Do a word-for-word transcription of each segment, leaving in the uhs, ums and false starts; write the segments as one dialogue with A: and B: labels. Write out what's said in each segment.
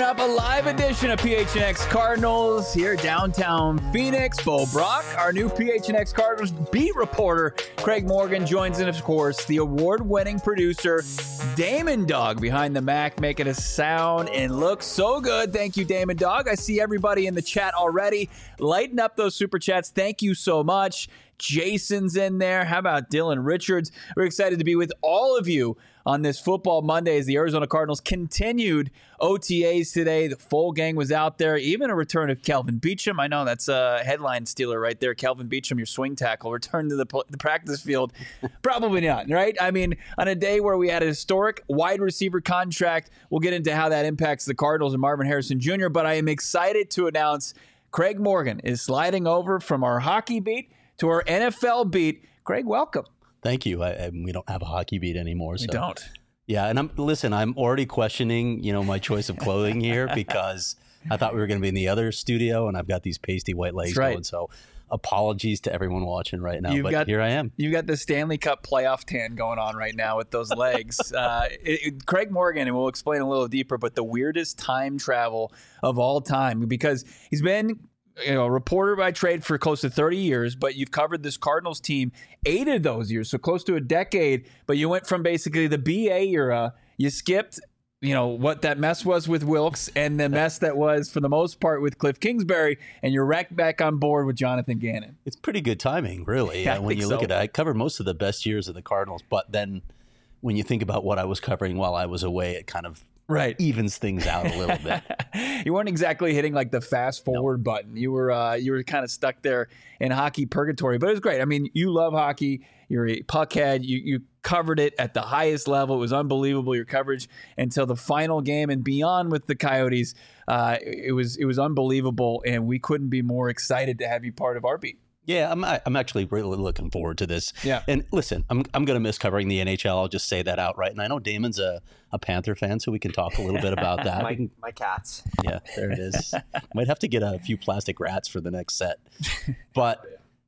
A: up a live edition of P H N X Cardinals here downtown Phoenix. Bo Brock, our new P H N X Cardinals beat reporter. Craig Morgan joins in, of course, the award-winning producer, Damon Dog, behind the Mac, making us sound and look so good. Thank you, Damon Dog. I see everybody in the chat already. Lighten up those super chats. Thank you so much. Jason's in there. How about Dylan Richards? We're excited to be with all of you on this Football Monday as the Arizona Cardinals continued O T As today. The full gang was out there. Even a return of Kelvin Beachum. I know that's a headline stealer right there. Kelvin Beachum, your swing tackle, return to the, the practice field. Probably not, right? I mean, on a day where we had a historic wide receiver contract, we'll get into how that impacts the Cardinals and Marvin Harrison Junior But I am excited to announce Craig Morgan is sliding over from our hockey beat to our N F L beat. Craig, welcome.
B: Thank you. I, I, we don't have a hockey beat anymore.
A: We
B: so.
A: don't.
B: Yeah, and I'm listen. I'm already questioning, you know, my choice of clothing here because I thought we were going to be in the other studio, and I've got these pasty white legs
A: That's right.
B: going. So, apologies to everyone watching right now.
A: You've
B: but
A: got,
B: here I am.
A: You've got the Stanley Cup playoff tan going on right now with those legs. uh, it, it, Craig Morgan, and we'll explain a little deeper, but the weirdest time travel of all time because he's been. You know, a reporter by trade for close to thirty years, but you've covered this Cardinals team eight of those years, so close to a decade. But you went from basically the B A era, you skipped, you know, what that mess was with Wilkes and the mess that was, for the most part, with Cliff Kingsbury, and you're right back on board with Jonathan Gannon.
B: It's pretty good timing, really.
A: Yeah,
B: uh, when you
A: so.
B: look at it, I covered most of the best years of the Cardinals, but then when you think about what I was covering while I was away, it kind of
A: right
B: evens things out a little bit.
A: You weren't exactly hitting like the fast forward no. button. You were uh, you were kind of stuck there in hockey purgatory, but it was great. I mean, you love hockey. You're a puckhead. You you covered it at the highest level. It was unbelievable, your coverage until the final game and beyond with the Coyotes. Uh, it was it was unbelievable, and we couldn't be more excited to have you part of our beat.
B: Yeah, I'm I'm actually really looking forward to this.
A: Yeah.
B: And listen, I'm I'm going to miss covering the N H L. I'll just say that outright. And I know Damon's a, a Panther fan, so we can talk a little bit about that.
C: my,
B: can,
C: my cats.
B: Yeah, there it is. Might have to get a few plastic rats for the next set. But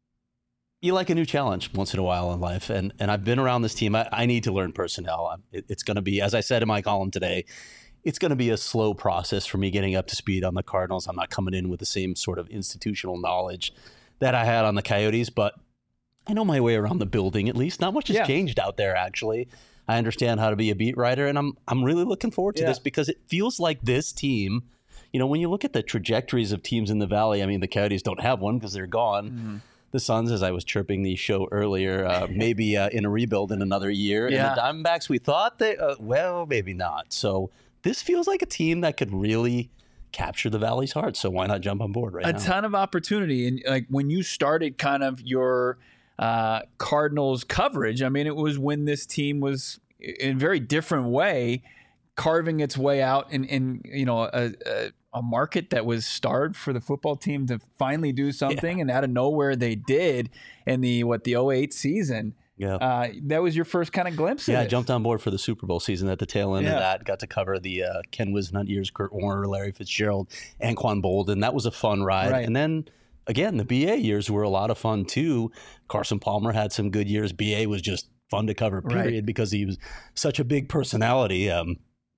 B: you like a new challenge once in a while in life. And and I've been around this team. I, I need to learn personnel. It, it's going to be, as I said in my column today, it's going to be a slow process for me getting up to speed on the Cardinals. I'm not coming in with the same sort of institutional knowledge that I had on the Coyotes, but I know my way around the building at least. Not much has
A: yeah.
B: changed out there, actually. I understand how to be a beat writer, and I'm I'm really looking forward to
A: yeah.
B: this because it feels like this team, you know, when you look at the trajectories of teams in the Valley, I mean, the Coyotes don't have one because they're gone. Mm-hmm. The Suns, as I was chirping the show earlier, uh, maybe uh, in a rebuild in another year.
A: Yeah.
B: And the Diamondbacks, we thought they, uh, well, maybe not. So this feels like a team that could really capture the Valley's heart, so why not jump on board right
A: a
B: now?
A: A ton of opportunity, and like when you started kind of your uh, Cardinals coverage, I mean, it was when this team was in a very different way carving its way out in, in you know a, a, a market that was starved for the football team to finally do something, yeah. and out of nowhere they did in the what the oh eight season.
B: Yeah,
A: uh, that was your first kind of glimpse of
B: yeah,
A: it.
B: I jumped on board for the Super Bowl season at the tail end
A: yeah.
B: of that. Got to cover the uh, Ken Whisenhunt years, Kurt Warner, Larry Fitzgerald, Anquan Bolden. That was a fun ride.
A: Right.
B: And then, again, the B A years were a lot of fun, too. Carson Palmer had some good years. B A was just fun to cover, period, right. because he was such a big personality. Um,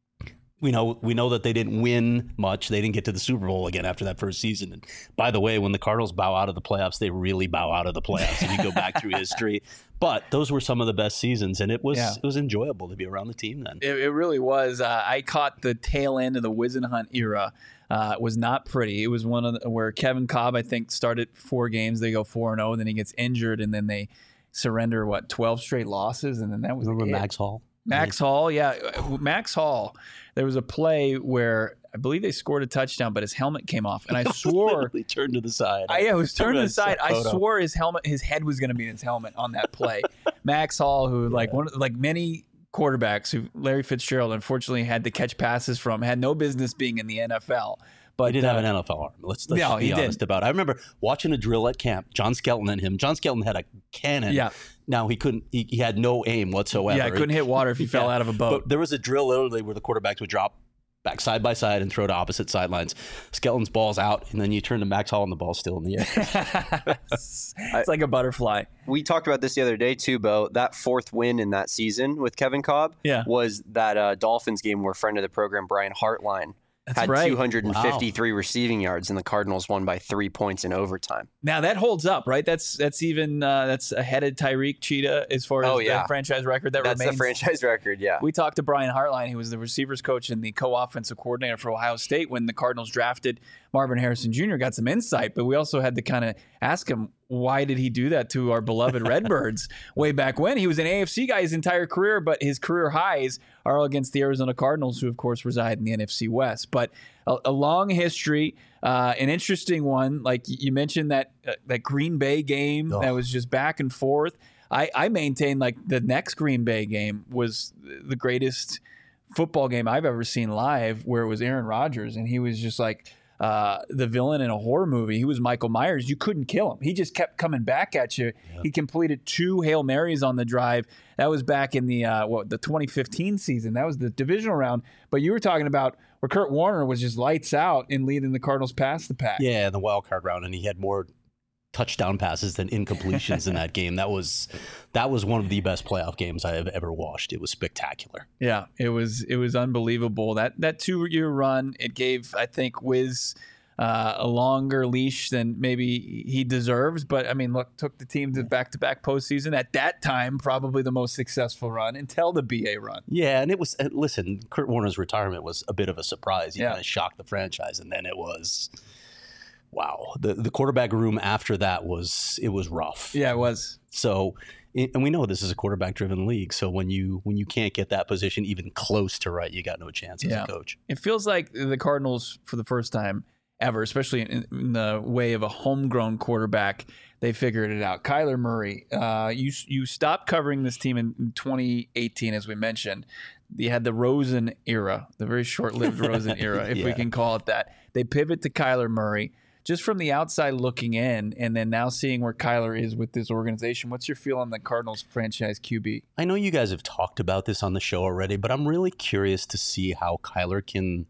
B: We know we know that they didn't win much. They didn't get to the Super Bowl again after that first season. And by the way, when the Cardinals bow out of the playoffs, they really bow out of the playoffs if you go back through history. But those were some of the best seasons, and it was yeah. it was enjoyable to be around the team then.
A: It, it really was. Uh, I caught the tail end of the Whisenhunt era. Uh, it was not pretty. It was one of the, where Kevin Cobb, I think, started four games. They go four and zero, and then he gets injured, and then they surrender what twelve straight losses, and then that was
B: remember
A: it.
B: Max Hall.
A: Max Hall, yeah. Max Hall, there was a play where I believe they scored a touchdown, but his helmet came off. And I swore...
B: He turned to the side.
A: I, yeah, it was turned to the side. I
B: photo.
A: swore his helmet, his head was going to be in his helmet on that play. Max Hall, who yeah. like one, like many quarterbacks, who Larry Fitzgerald unfortunately had to catch passes from, had no business being in the N F L. But
B: he didn't
A: uh,
B: have an N F L arm. Let's, let's
A: no,
B: be
A: he
B: honest
A: didn't.
B: about it. I remember watching a drill at camp, John Skelton and him. John Skelton had a cannon.
A: Yeah.
B: Now, he couldn't, he, he had no aim whatsoever.
A: Yeah, couldn't hit water if he yeah. fell out of a boat.
B: But there was a drill literally where the quarterbacks would drop back side by side and throw to opposite sidelines. Skelton's ball's out, and then you turn to Max Hall and the ball's still in the air.
A: it's like a butterfly.
C: We talked about this the other day, too, Bo. That fourth win in that season with Kevin Cobb
A: yeah.
C: was that uh, Dolphins game where friend of the program, Brian Hartline,
A: That's
C: had
A: right.
C: two hundred fifty-three wow. receiving yards, and the Cardinals won by three points in overtime.
A: Now that holds up, right? That's that's even uh, that's ahead of Tyreek Cheetah as far as
C: oh, yeah.
A: the franchise record that
C: that's
A: remains.
C: That's the franchise record, yeah.
A: We talked to Brian Hartline, who was the receivers coach and the co-offensive coordinator for Ohio State when the Cardinals drafted Marvin Harrison Junior Got some insight, but we also had to kind of ask him, why did he do that to our beloved Redbirds way back when? He was an A F C guy his entire career, but his career highs are all against the Arizona Cardinals, who, of course, reside in the N F C West. But a, a long history, uh, an interesting one. Like you mentioned that uh, that Green Bay game oh. that was just back and forth. I, I maintain like the next Green Bay game was the greatest football game I've ever seen live, where it was Aaron Rodgers, and he was just like uh, the villain in a horror movie. He was Michael Myers. You couldn't kill him. He just kept coming back at you. Yeah. He completed two Hail Marys on the drive. That was back in the uh, what the twenty fifteen season. That was the divisional round. But you were talking about where Kurt Warner was just lights out in leading the Cardinals past the pack.
B: Yeah, the wild card round, and he had more touchdown passes than incompletions in that game. That was that was one of the best playoff games I have ever watched. It was spectacular.
A: Yeah, it was it was unbelievable. That that two year run, it gave, I think, Wiz uh, a longer leash than maybe he deserves. But I mean, look, took the team to back to back postseason. At that time, probably the most successful run until the B A run.
B: Yeah, and it was uh, listen, Kurt Warner's retirement was a bit of a surprise. He
A: yeah.
B: kind of shocked the franchise, and then it was. Wow, the the quarterback room after that was it was rough.
A: Yeah, it was.
B: So, and we know this is a quarterback-driven league. So when you when you can't get that position even close to right, you got no chance as
A: yeah.
B: a coach.
A: It feels like the Cardinals, for the first time ever, especially in, in the way of a homegrown quarterback, they figured it out. Kyler Murray, uh, you you stopped covering this team in twenty eighteen, as we mentioned. You had the Rosen era, the very short-lived Rosen era, if yeah. we can call it that. They pivot to Kyler Murray. Just from the outside looking in, and then now seeing where Kyler is with this organization, what's your feel on the Cardinals franchise Q B?
B: I know you guys have talked about this on the show already, but I'm really curious to see how Kyler can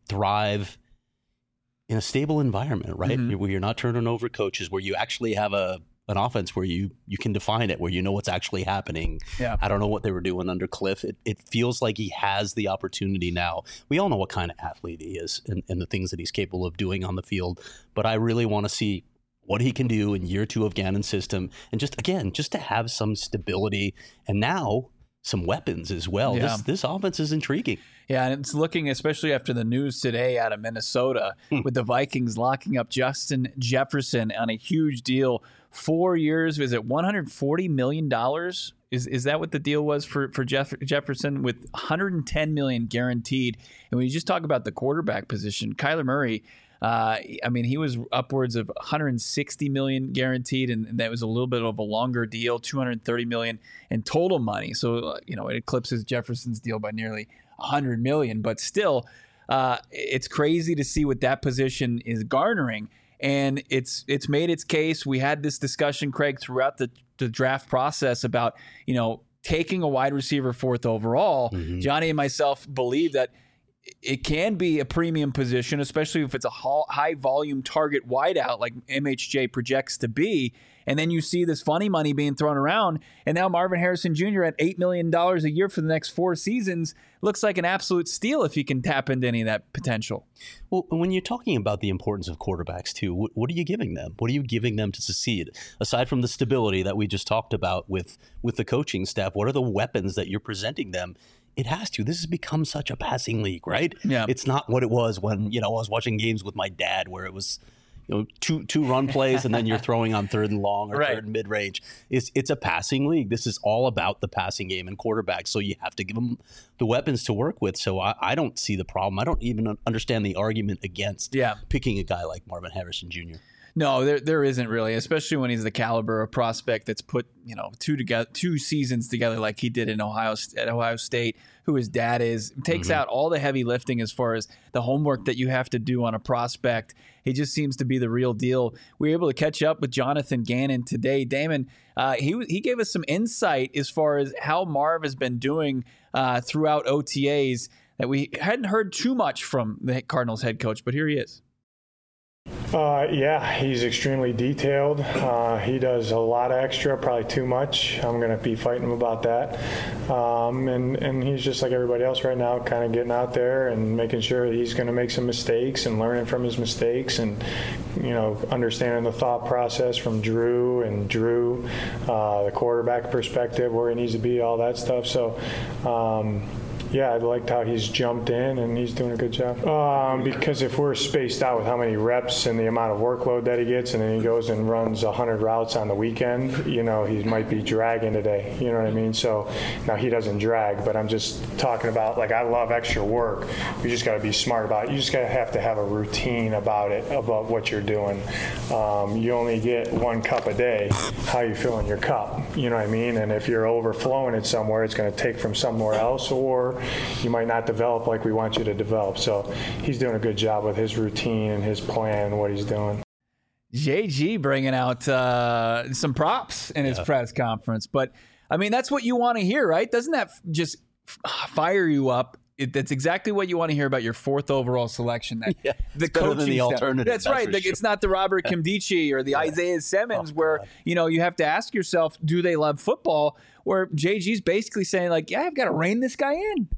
B: thrive in a stable environment, right? Mm-hmm. Where you're not turning over coaches, where you actually have a an offense where you you can define it, where you know what's actually happening.
A: Yeah.
B: I don't know what they were doing under Cliff. It, it feels like he has the opportunity now. We all know what kind of athlete he is and, and the things that he's capable of doing on the field. But I really want to see what he can do in year two of Gannon's system. And just, again, just to have some stability and now some weapons as well.
A: Yeah.
B: This this offense is intriguing.
A: Yeah, and it's looking, especially after the news today out of Minnesota, with the Vikings locking up Justin Jefferson on a huge deal. Four years, is it one hundred forty million dollars? Is is that what the deal was for, for Jeff, Jefferson, with one hundred ten million dollars guaranteed? And when you just talk about the quarterback position, Kyler Murray, uh, I mean, he was upwards of one hundred sixty million dollars guaranteed, and, and that was a little bit of a longer deal, two hundred thirty million dollars in total money. So, uh, you know, it eclipses Jefferson's deal by nearly one hundred million dollars. But still, uh, it's crazy to see what that position is garnering. And it's it's made its case. We had this discussion, Craig, throughout the, the draft process about, you know, taking a wide receiver fourth overall. Mm-hmm. Johnny and myself believe that it can be a premium position, especially if it's a high volume target wideout like M H J projects to be. And then you see this funny money being thrown around. And now Marvin Harrison Junior at eight million dollars a year for the next four seasons looks like an absolute steal if he can tap into any of that potential.
B: Well, when you're talking about the importance of quarterbacks, too, what, what are you giving them? What are you giving them to succeed? Aside from the stability that we just talked about with, with the coaching staff, what are the weapons that you're presenting them? It has to. This has become such a passing league, right?
A: Yeah.
B: It's not what it was when, you know, I was watching games with my dad where it was, you know, two two run plays and then you're throwing on third and long or
A: right.
B: third and mid range. It's it's a passing league. This is all about the passing game and quarterbacks. So you have to give them the weapons to work with. So I, I don't see the problem. I don't even understand the argument against
A: yeah.
B: picking a guy like Marvin Harrison Junior
A: No, there there isn't really, especially when he's the caliber of prospect that's put, you know, two together, two seasons together like he did in Ohio at Ohio State, who his dad is, takes mm-hmm. out all the heavy lifting as far as the homework that you have to do on a prospect. He just seems to be the real deal. We were able to catch up with Jonathan Gannon today. Damon, uh, he he gave us some insight as far as how Marv has been doing uh, throughout O T As that we hadn't heard too much from the Cardinals head coach, but here he is.
D: Uh, yeah, he's extremely detailed. Uh, he does a lot of extra, probably too much. I'm going to be fighting him about that. Um, and, and he's just like everybody else right now, kind of getting out there and making sure he's going to make some mistakes and learning from his mistakes and, you know, understanding the thought process from Drew and Drew, uh, the quarterback perspective, where he needs to be, all that stuff. So, um, yeah, I liked how he's jumped in, and he's doing a good job. Um, because if we're spaced out with how many reps and the amount of workload that he gets, and then he goes and runs one hundred routes on the weekend, you know, he might be dragging today. You know what I mean? So now he doesn't drag, but I'm just talking about, like, I love extra work. You just got to be smart about it. You just got to have to have a routine about it, about what you're doing. Um, you only get one cup a day. How you fill in your cup? You know what I mean? And if you're overflowing it somewhere, it's going to take from somewhere else, or you might not develop like we want you to develop. So he's doing a good job with his routine and his plan and what he's doing.
A: J G bringing out uh, some props in his yeah. press conference. But, I mean, that's what you want to hear, right? Doesn't that just fire you up? It, that's exactly what you want to hear about your fourth overall selection. That
B: yeah,
A: the
B: coaching than the alternative.
A: That's, that's right. The, sure. It's not the Robert Kimdichie or the yeah. Isaiah Simmons, oh, where God. you know you have to ask yourself, do they love football? Where J G's basically saying, like, yeah, I've got to rein this guy in.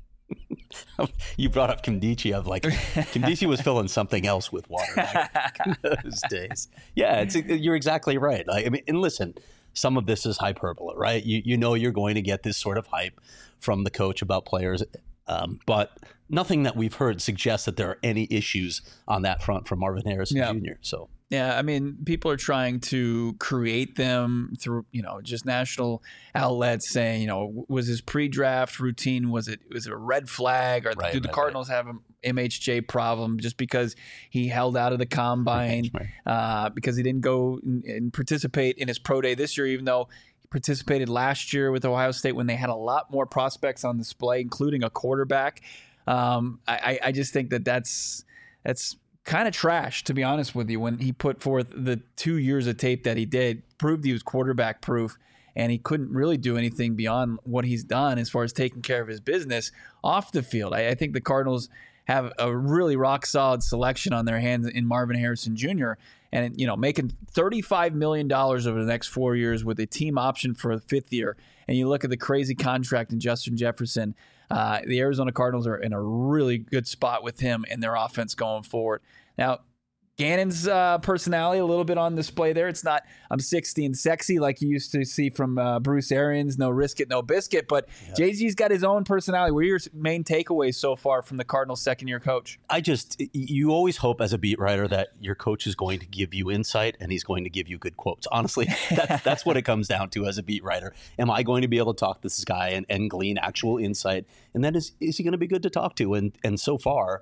B: You brought up Kimdichie. Of like, Kimdichie was filling something else with water back in those days. Yeah, it's, you're exactly right. Like, I mean, and listen, some of this is hyperbole, right? You you know you're going to get this sort of hype from the coach about players. Um, but nothing that we've heard suggests that there are any issues on that front from Marvin Harrison yeah. Junior So
A: yeah, I mean, people are trying to create them through, you know, just national outlets saying, you know, was his pre-draft routine, was it was it a red flag, or right, do the right, Cardinals right. have an M H J problem just because he held out of the combine, right. uh, because he didn't go and, and participate in his pro day this year, even though participated last year with Ohio State when they had a lot more prospects on display, including a quarterback. Um, I, I just think that that's that's kind of trash, to be honest with you. When he put forth the two years of tape that he did, proved he was quarterback proof, and he couldn't really do anything beyond what he's done as far as taking care of his business off the field. I, I think the Cardinals have a really rock solid selection on their hands in Marvin Harrison Junior And, you know, making thirty-five million dollars over the next four years with a team option for a fifth year. And you look at the crazy contract in Justin Jefferson, uh, the Arizona Cardinals are in a really good spot with him and their offense going forward. Now, Gannon's uh, personality a little bit on display there. It's not I'm sixty and sexy like you used to see from uh, Bruce Arians, no risk it, no biscuit. But yeah. J G's got his own personality. What are your main takeaways so far from the Cardinals' second-year coach?
B: I just, you always hope as a beat writer that your coach is going to give you insight and he's going to give you good quotes. Honestly, that's, that's what it comes down to as a beat writer. Am I going to be able to talk to this guy and, and glean actual insight? And then is, is he going to be good to talk to? And and so far,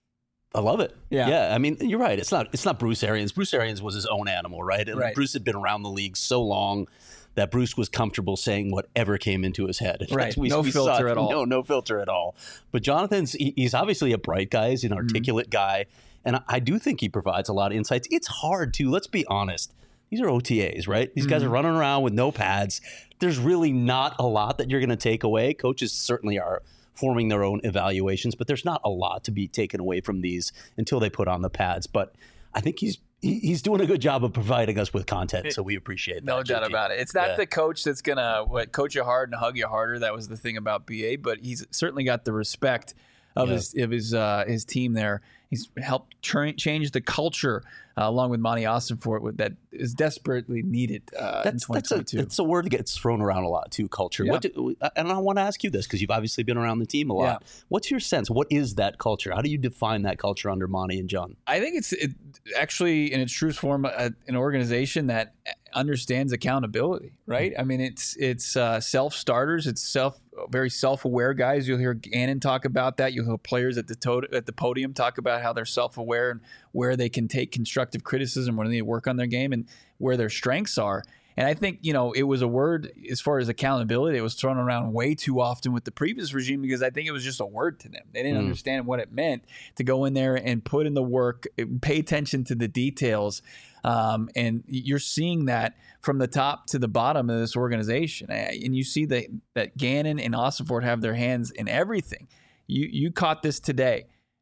B: I love it. Yeah. Yeah. I mean, you're right. It's not it's not Bruce Arians. Bruce Arians was his own animal, right? And
A: right.
B: Bruce had been around the league so long that Bruce was comfortable saying whatever came into his head.
A: Right. We, no we filter at all.
B: No, no filter at all. But Jonathan's, he, he's obviously a bright guy. He's an articulate mm-hmm. guy. And I, I do think he provides a lot of insights. It's hard to, let's be honest. These are O T As, right? These mm-hmm. guys are running around with no pads. There's really not a lot that you're going to take away. Coaches certainly are forming their own evaluations, but there's not a lot to be taken away from these until they put on the pads. But I think he's he's doing a good job of providing us with content, so we appreciate that.
A: No doubt
B: J G.
A: about it. It's not
B: yeah.
A: the coach that's going to what coach you hard and hug you harder. That was the thing about B A, but he's certainly got the respect of yeah. his of his uh, his team there. He's helped tra- change the culture uh, along with Monty Ossenfort that is desperately needed uh,
B: that's,
A: in twenty twenty-two.
B: That's a, it's a word that gets thrown around a lot too, culture.
A: Yeah.
B: What do, and I want to ask you this because you've obviously been around the team a lot. Yeah. What's your sense? What is that culture? How do you define that culture under Monty and John?
A: I think it's it, actually in its truest form a, an organization that understands accountability, right? I mean, it's it's uh, self-starters. It's self very self-aware guys. You'll hear Gannon talk about that. You'll hear players at the to- at the podium talk about how they're self-aware and where they can take constructive criticism, when they need to work on their game, and where their strengths are. And I think, you know, it was a word as far as accountability. It was thrown around way too often with the previous regime because I think it was just a word to them. They didn't mm. understand what it meant to go in there and put in the work, pay attention to the details. Um, and you're seeing that from the top to the bottom of this organization. And you see that, that Gannon and Ossenfort have their hands in everything. You, you caught this today.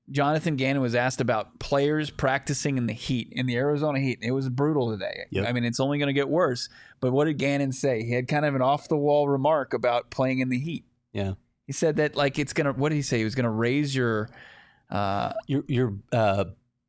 A: Jonathan Gannon was asked about players practicing in the heat, in the Arizona heat. It was brutal today.
B: Yep.
A: I mean, it's only going to get worse. But what did Gannon say? He had kind of an off-the-wall remark about playing in the heat.
B: Yeah.
A: He said that, like, it's going to, what did he say? He was going to raise your, uh,
B: Your, your, uh,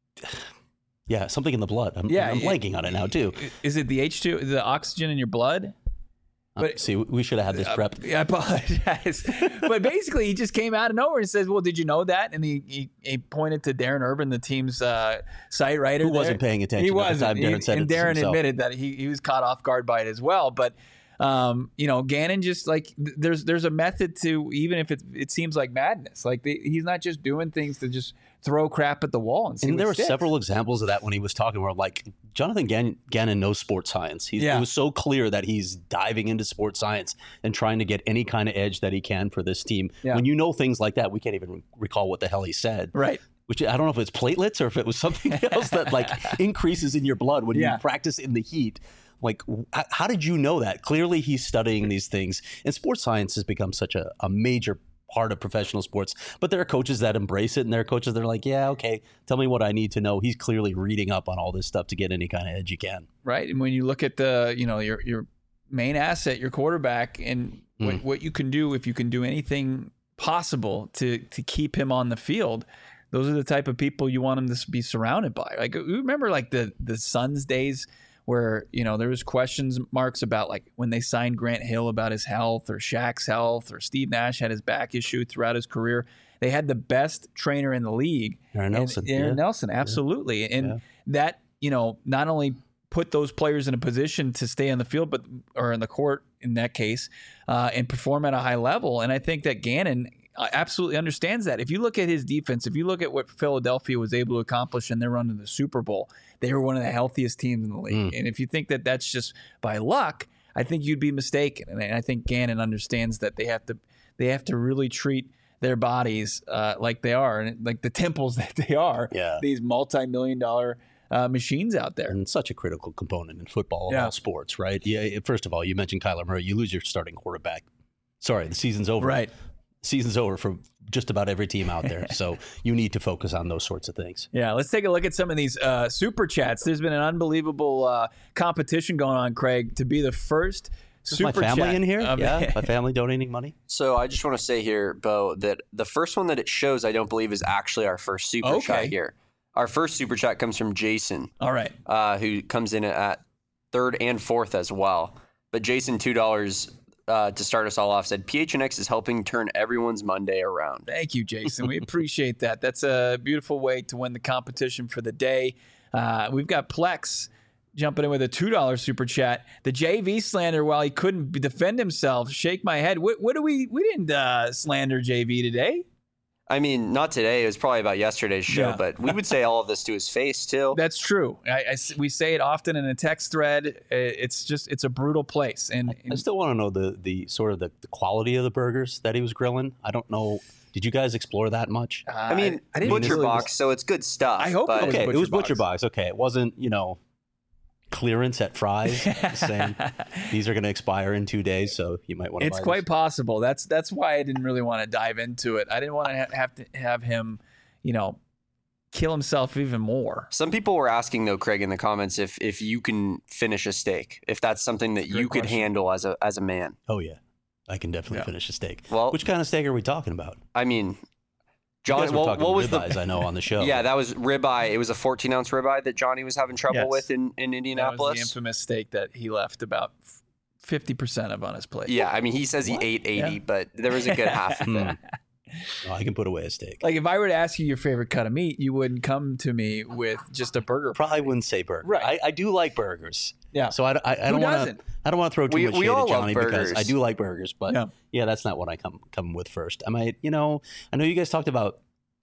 B: yeah, something in the blood. I'm,
A: Yeah,
B: I'm
A: it-
B: blanking on it now, too.
A: is it the H two, the oxygen in your blood?
B: Uh,
A: But-
B: see, we should have had this
A: Uh,
B: prep.
A: I apologize. But basically, he just came out of nowhere and says, well, did you know that? And he, he, he pointed to Darren Urban, the team's uh, site writer.
B: Who wasn't
A: there.
B: paying attention
A: He
B: at the
A: wasn't.
B: time Darren
A: He-
B: said
A: and
B: it to
A: Darren
B: himself.
A: admitted that he, he was caught off guard by it as well. But, um, you know, Gannon just like, th- there's there's a method to, even if it, it seems like madness. Like, the, he's not just doing things to just throw crap at the wall and see
B: And
A: what
B: there were
A: sticks.
B: several examples of that when he was talking where, like, Jonathan Gannon, Gannon knows sports science. He's,
A: Yeah.
B: It was so clear that he's diving into sports science and trying to get any kind of edge that he can for this team.
A: Yeah.
B: When you know things like that, we can't even recall what the hell he said.
A: Right.
B: Which I don't know if it's platelets or if it was something else that, like, increases in your blood when
A: Yeah.
B: you practice in the heat. Like, h- how did you know that? Clearly, he's studying these things. And sports science has become such a, a major part of professional sports. But there are coaches that embrace it, and there are coaches that are like, yeah, okay, tell me what I need to know. He's clearly reading up on all this stuff to get any kind of edge he can.
A: Right. And when you look at the, you know, your your main asset, your quarterback, and what,
B: Mm.
A: what you can do if you can do anything possible to to keep him on the field, those are the type of people you want him to be surrounded by. Like, you remember like the the Suns days where, you know, there was questions marks about like when they signed Grant Hill about his health, or Shaq's health, or Steve Nash had his back issue throughout his career. They had the best trainer in the league.
B: Aaron
A: And
B: Nelson.
A: Aaron
B: yeah.
A: Nelson, absolutely. And
B: Yeah.
A: that, you know, not only put those players in a position to stay on the field, but or in the court in that case, uh, and perform at a high level. And I think that Gannon uh, absolutely understands that. If you look at his defense, if you look at what Philadelphia was able to accomplish in their run to the Super Bowl, they were one of the healthiest teams in the league.
B: Mm.
A: And if you think that that's just by luck, I think you'd be mistaken. And I I think Gannon understands that they have to they have to really treat their bodies uh, like they are, and like the temples that they are.
B: Yeah.
A: These multi-million dollar uh, machines out there.
B: And such a critical component in football of
A: Yeah.
B: all sports, right? Yeah. First of all, you mentioned Kyler Murray. You lose your starting quarterback. Sorry, the season's over.
A: Right.
B: Season's over for just about every team out there. So you need to focus on those sorts of things.
A: Yeah, let's take a look at some of these uh, super chats. There's been an unbelievable uh, competition going on, Craig, to be the first
B: Is
A: super
B: my family
A: chat.
B: in here?
A: Um,
B: yeah, my family donating money.
C: So I just want to say here, Bo, that the first one that it shows, I don't believe, is actually our first super
A: Okay.
C: chat here. Our first super chat comes from Jason,
A: All right.
C: uh, who comes in at third and fourth as well. But Jason, two dollars uh, to start us all off, said P H N X is helping turn everyone's Monday around.
A: Thank you, Jason. We appreciate that. That's a beautiful way to win the competition for the day. Uh, we've got Plex jumping in with a two dollars super chat. The J V slander, while he couldn't defend himself, shake my head. What, what do we, we didn't uh, slander J V today.
C: I mean, not today. It was probably about yesterday's show,
A: Yeah.
C: but we would say all of this to his face too.
A: That's true. I, I s- we say it often in a text thread. Uh, It's just, it's a brutal place. And,
B: I
A: and
B: still want to know the the sort of the, the quality of the burgers that he was grilling. I don't know. Did you guys explore that much?
A: uh,
C: I mean,
A: I didn't
C: Butcher
A: really-
C: Box, so it's good stuff.
A: I hope it
C: but
A: was
B: Okay,
A: Butcher
B: it was
A: Box.
B: Butcher Box. Okay, it wasn't, you know, clearance at Fry's saying these are going to expire in two days, so you might want to.
A: It's
B: buy
A: quite
B: this.
A: possible. That's that's why I didn't really want to dive into it. I didn't want to ha- have to have him, you know, kill himself even more.
C: Some people were asking though, Craig, in the comments, if if you can finish a steak, if that's something that
A: Great
C: you could
A: question.
C: handle as a as a man.
B: Oh yeah, I can definitely
A: Yeah.
B: finish a steak.
C: Well,
B: Which kind of steak are we talking about?
C: I mean,
B: You
C: John,
B: guys were
C: what,
B: talking
C: what was
B: ribeyes,
C: the?
B: I know on the show.
C: Yeah, that was ribeye. It was a fourteen ounce ribeye that Johnny was having trouble
A: Yes.
C: with in, in
A: That was
C: Indianapolis.
A: the infamous steak that he left about fifty percent of on his plate.
C: Yeah, I mean, he says he
A: What?
C: ate eighty,
A: Yeah.
C: but there was a good half of
B: Hmm.
C: it.
B: Oh, I can put away a steak.
A: Like if I were to ask you your favorite cut of meat, you wouldn't come to me with just a burger.
B: Probably wouldn't say burger.
A: Right.
B: I, I do like burgers.
A: Yeah.
B: So I, I, I
A: Who
B: don't want
A: doesn't?
B: to. I don't want to throw too
C: We-
B: much
C: we
B: shade
C: all
B: at
C: love
B: Johnny because
C: burgers.
B: I do like burgers, but
A: Yeah.
B: yeah. that's not what I come come with first. I might, you know, I know you guys talked about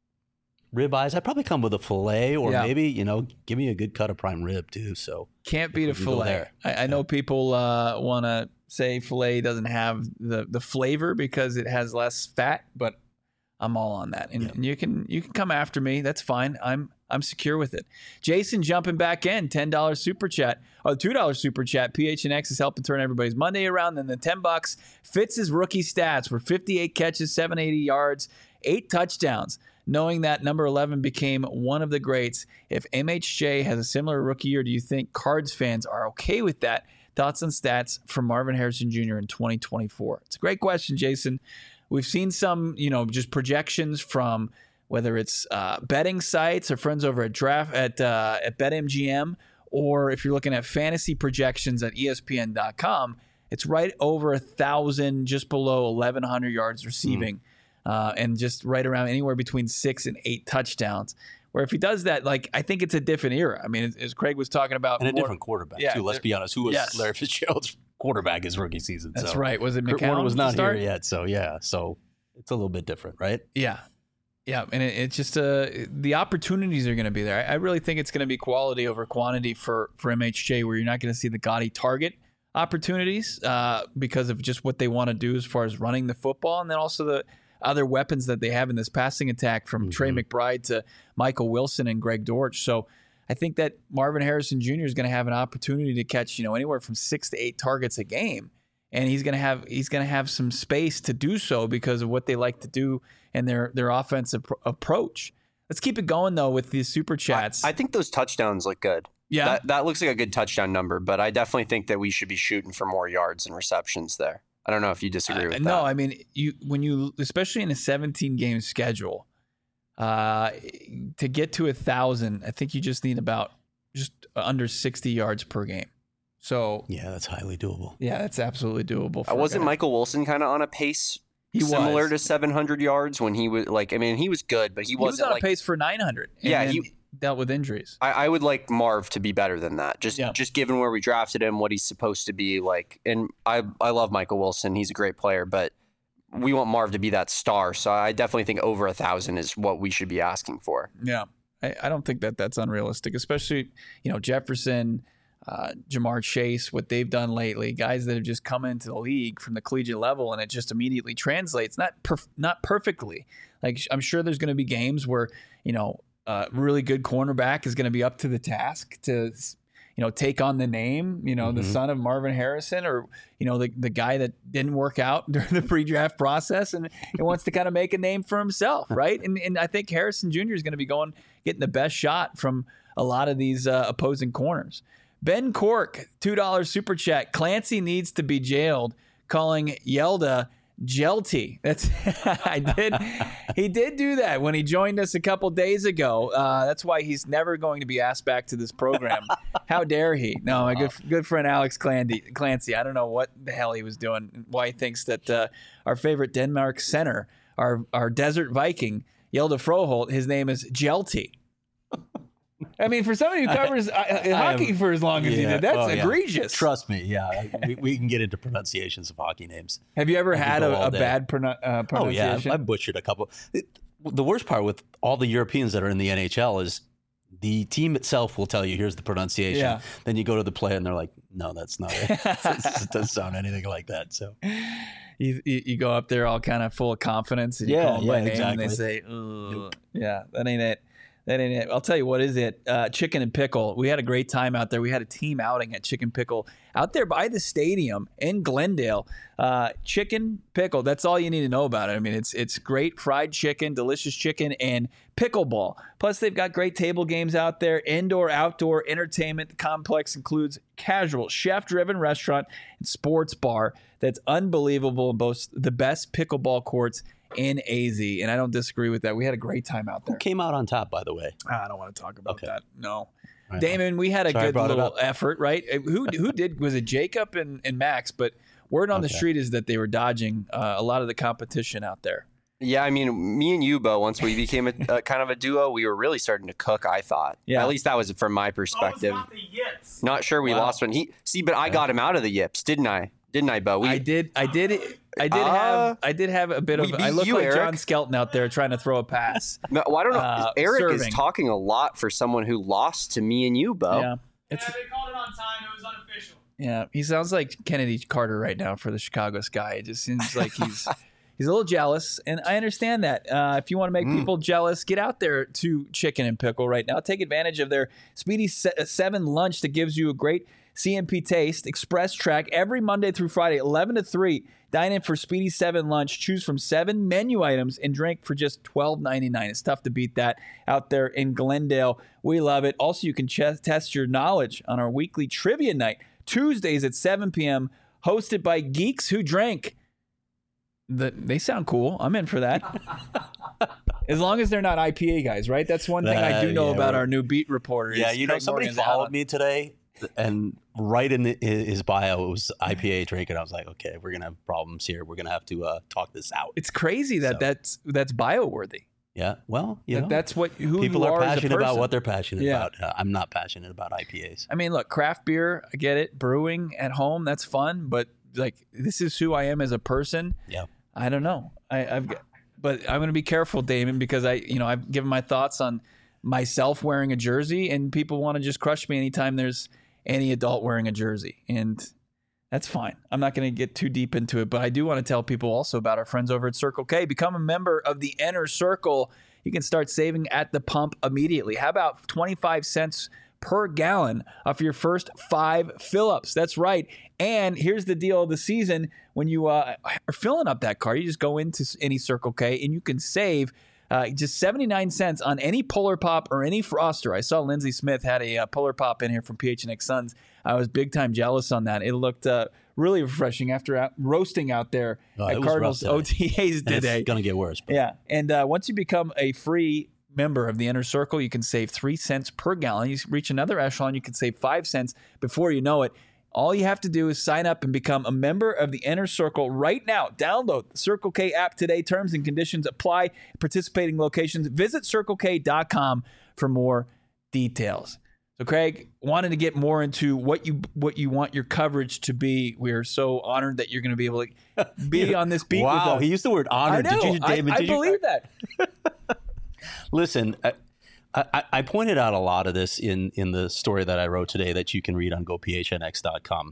B: ribeyes. I'd probably come with a fillet, or
A: Yeah.
B: maybe you know, give me a good cut of prime rib too. So
A: Can't beat a
B: We can go
A: fillet.
B: there.
A: I, I know people uh, want to say fillet doesn't have the, the flavor because it has less fat, but I'm all on that. And,
B: Yeah.
A: and you can you can come after me. That's fine. I'm I'm secure with it. Jason jumping back in, ten dollars super chat. Oh, two dollars super chat. P H N X is helping turn everybody's Monday around. Then the ten bucks fits his rookie stats were fifty-eight catches, seven hundred eighty yards, eight touchdowns. knowing that number eleven became one of the greats. If M H J has a similar rookie year, do you think Cards fans are okay with that? Thoughts and stats from Marvin Harrison Junior in twenty twenty-four. It's a great question, Jason. We've seen some, you know, just projections from whether it's uh, betting sites or friends over at draft at uh, at BetMGM, or if you're looking at fantasy projections at E S P N dot com, it's right over a thousand, just below eleven hundred yards receiving, mm. uh, and just right around anywhere between six and eight touchdowns. Where if he does that, like, I think it's a different era. I mean, as, as Craig was talking about,
B: and a
A: more,
B: different quarterback
A: yeah,
B: too. Let's be honest, who was
A: yes.
B: Larry Fitzgerald's quarterback his rookie season?
A: That's
B: so.
A: right. Was it McCown?
B: Kurt Warner was not here yet, so yeah, so it's a little bit different, right?
A: Yeah. Yeah, and it, it's just uh, the opportunities are going to be there. I, I really think it's going to be quality over quantity for, for M H J, where you're not going to see the gaudy target opportunities uh, because of just what they want to do as far as running the football, and then also the other weapons that they have in this passing attack from mm-hmm. Trey McBride to Michael Wilson and Greg Dortch. So I think that Marvin Harrison Junior is going to have an opportunity to catch, you know, anywhere from six to eight targets a game. And he's gonna have he's gonna have some space to do so because of what they like to do and their their offensive pr- approach. Let's keep it going though with these super chats.
C: I, I think those touchdowns look good.
A: Yeah,
C: that, that looks like a good touchdown number. But I definitely think that we should be shooting for more yards and receptions there. I don't know if you disagree with
A: uh,
C: that.
A: No, I mean you when you especially in a seventeen game schedule, uh, to get to a thousand, I think you just need about just under sixty yards per game. So
B: yeah, that's highly doable.
A: Yeah, that's absolutely doable. For
C: uh, wasn't Michael Wilson kind of on a pace
A: he
C: similar
A: was.
C: to seven hundred yards when he was like? I mean, he was good, but he,
A: he
C: wasn't
A: was on
C: like,
A: a pace for nine hundred.
C: Yeah, he
A: dealt with injuries.
C: I, I would like Marv to be better than that. Just
A: yeah.
C: just given where we drafted him, what he's supposed to be like. And I I love Michael Wilson. He's a great player, but we want Marv to be that star. So I definitely think over a thousand is what we should be asking for.
A: Yeah, I, I don't think that that's unrealistic, especially you know Jefferson. Uh, Jamar Chase, what they've done lately, guys that have just come into the league from the collegiate level, and it just immediately translates. Not perf- not perfectly. Like I'm sure there's going to be games where you know a really good cornerback is going to be up to the task to you know take on the name, you know, mm-hmm. the son of Marvin Harrison, or you know the the guy that didn't work out during the pre-draft process and, and wants to kind of make a name for himself, right? And and I think Harrison Junior is going to be going getting the best shot from a lot of these uh, opposing corners. Ben Cork, two dollars super chat. Clancy needs to be jailed, calling Yelda Jelty. That's I did. He did do that when he joined us a couple days ago. Uh, that's why he's never going to be asked back to this program. How dare he? No, my good good friend Alex Clancy. Clancy. I don't know what the hell he was doing. Why he thinks that uh, our favorite Denmark center, our our desert Viking, Yelda Froholt, his name is Jelty. I mean, for somebody who covers I, I, hockey am, for as long as yeah, he did, that's oh, egregious.
B: Yeah. Trust me, yeah. we, we can get into pronunciations of hockey names.
A: Have you ever had a, a bad pronun- uh, pronunciation?
B: Oh, yeah. I butchered a couple. It, the worst part with all the Europeans that are in the N H L is the team itself will tell you, here's the pronunciation. Yeah. Then you go to the play and they're like, no, that's not it. It doesn't sound anything like that. So
A: you, you, you go up there all kind of full of confidence and you
B: yeah,
A: call them
B: yeah,
A: by name
B: exactly.
A: and they say, nope. Yeah, that ain't it. That ain't it. I'll tell you what is it. Uh, Chicken and Pickle. We had a great time out there. We had a team outing at Chicken Pickle out there by the stadium in Glendale. Uh, chicken Pickle. That's all you need to know about it. I mean, it's it's great fried chicken, delicious chicken, and pickleball. Plus, they've got great table games out there. Indoor, outdoor entertainment. The complex includes casual, chef-driven restaurant and sports bar that's unbelievable and boasts the best pickleball courts in A Z, and I don't disagree with that. We had a great time out there.
B: Who came out on top, by the way?
A: I don't want to talk about
B: okay.
A: that. No.
B: Right.
A: Damon, we had a
B: Sorry,
A: good little effort, right? Who who did, was it Jacob and, and Max? But word on okay. the street is that they were dodging uh, a lot of the competition out there.
C: Yeah, I mean, me and you, Bo, once we became a, a kind of a duo, we were really starting to cook, I thought. Yeah. At least that was from my perspective.
E: Oh, it's not the yips.
C: Not sure we wow. lost one. He See, but I got him out of the yips, didn't I? Didn't I, Bo? We,
A: I did. I did. I did
C: uh,
A: have. I did have a bit of. I look
C: you,
A: like
C: Eric.
A: John Skelton out there trying to throw a pass.
C: No, well, I don't know.
A: Uh,
C: Eric
A: serving.
C: is talking a lot for someone who lost to me and you, Bo.
A: Yeah,
E: it's, yeah, they called it on time. It was unofficial.
A: Yeah, he sounds like Kennedy Carter right now for the Chicago Sky. It just seems like he's he's a little jealous, and I understand that. Uh, if you want to make mm. people jealous, get out there to Chicken and Pickle right now. Take advantage of their Speedy Seven lunch that gives you a great C M P Taste, Express Track, every Monday through Friday, eleven to three. Dine in for Speedy seven lunch. Choose from seven menu items and drink for just twelve ninety-nine. It's tough to beat that out there in Glendale. We love it. Also, you can ch- test your knowledge on our weekly trivia night, Tuesdays at seven p.m., hosted by Geeks Who Drank. The, they sound cool. I'm in for that. As long as they're not I P A guys, right? That's one thing uh, I do know yeah, about right. our new beat reporter.
B: Yeah, you know,
A: Craig
B: somebody
A: Morgan's
B: followed
A: out.
B: me today, and right in the, his bio, it was I P A drink, and I was like, okay, we're going to have problems here. We're going to have to uh, talk this out.
A: It's crazy that so. that's that's bio-worthy.
B: Yeah, well, you
A: that,
B: know,
A: that's what who
B: people
A: you
B: are
A: are
B: passionate
A: as a
B: about what they're passionate
A: yeah.
B: about. Uh, I'm not passionate about I P As.
A: I mean, look, craft beer, I get it. Brewing at home, that's fun. But like, this is who I am as a person.
B: Yeah,
A: I don't know. I, I've, but I'm going to be careful, Damon, because I, you know, I've given my thoughts on myself wearing a jersey, and people want to just crush me anytime there's any adult wearing a jersey, and that's fine. I'm not going to get too deep into it, but I do want to tell people also about our friends over at Circle K. Become a member of the Inner Circle. You can start saving at the pump immediately. How about twenty-five cents per gallon off your first five fill-ups? That's right. And here's the deal of the season. When you uh, are filling up that car, you just go into any Circle K and you can save uh, just seventy-nine cents on any Polar Pop or any Froster. I saw Lindsey Smith had a uh, Polar Pop in here from P H N X Suns. I was big time jealous on that. It looked uh, really refreshing after out, roasting out there
B: oh,
A: at Cardinals O T As today.
B: It's going to get worse. But.
A: Yeah. And uh, once you become a free member of the Inner Circle, you can save three cents per gallon. You reach another echelon, you can save five cents before you know it. All you have to do is sign up and become a member of the Inner Circle right now. Download the Circle K app today. Terms and conditions apply. Participating locations. Visit circle k dot com for more details. So, Craig, wanted to get more into what you what you want your coverage to be. We are so honored that you're going to be able to be on this beat.
B: Wow,
A: with us.
B: He used the word honored.
A: I know.
B: Did you, David?
A: I, I
B: did
A: believe
B: you?
A: that.
B: Listen, I, I, I pointed out a lot of this in, in the story that I wrote today that you can read on go p h n x dot com.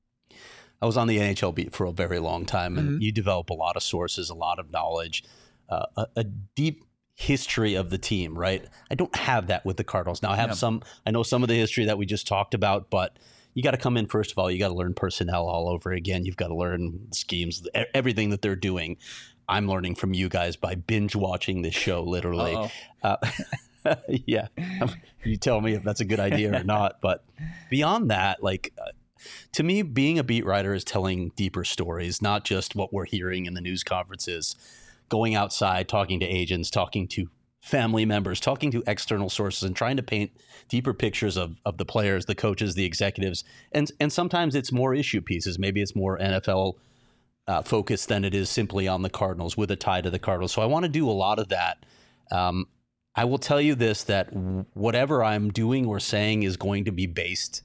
B: I was on the N H L beat for a very long time, and mm-hmm. you develop a lot of sources, a lot of knowledge, uh, a, a deep history of the team, right? I don't have that with the Cardinals. Now I have yeah. some, I know some of the history that we just talked about, but you got to come in, first of all, you got to learn personnel all over again. You've got to learn schemes, everything that they're doing. I'm learning from you guys by binge watching this show, literally. Uh, yeah. You tell me if that's a good idea or not. But beyond that, like, uh, to me, being a beat writer is telling deeper stories, not just what we're hearing in the news conferences. Going outside, talking to agents, talking to family members, talking to external sources, and trying to paint deeper pictures of, of the players, the coaches, the executives. And and sometimes it's more issue pieces. Maybe it's more N F L uh, focused than it is simply on the Cardinals with a tie to the Cardinals. So I want to do a lot of that. Um, I will tell you this, that whatever I'm doing or saying is going to be based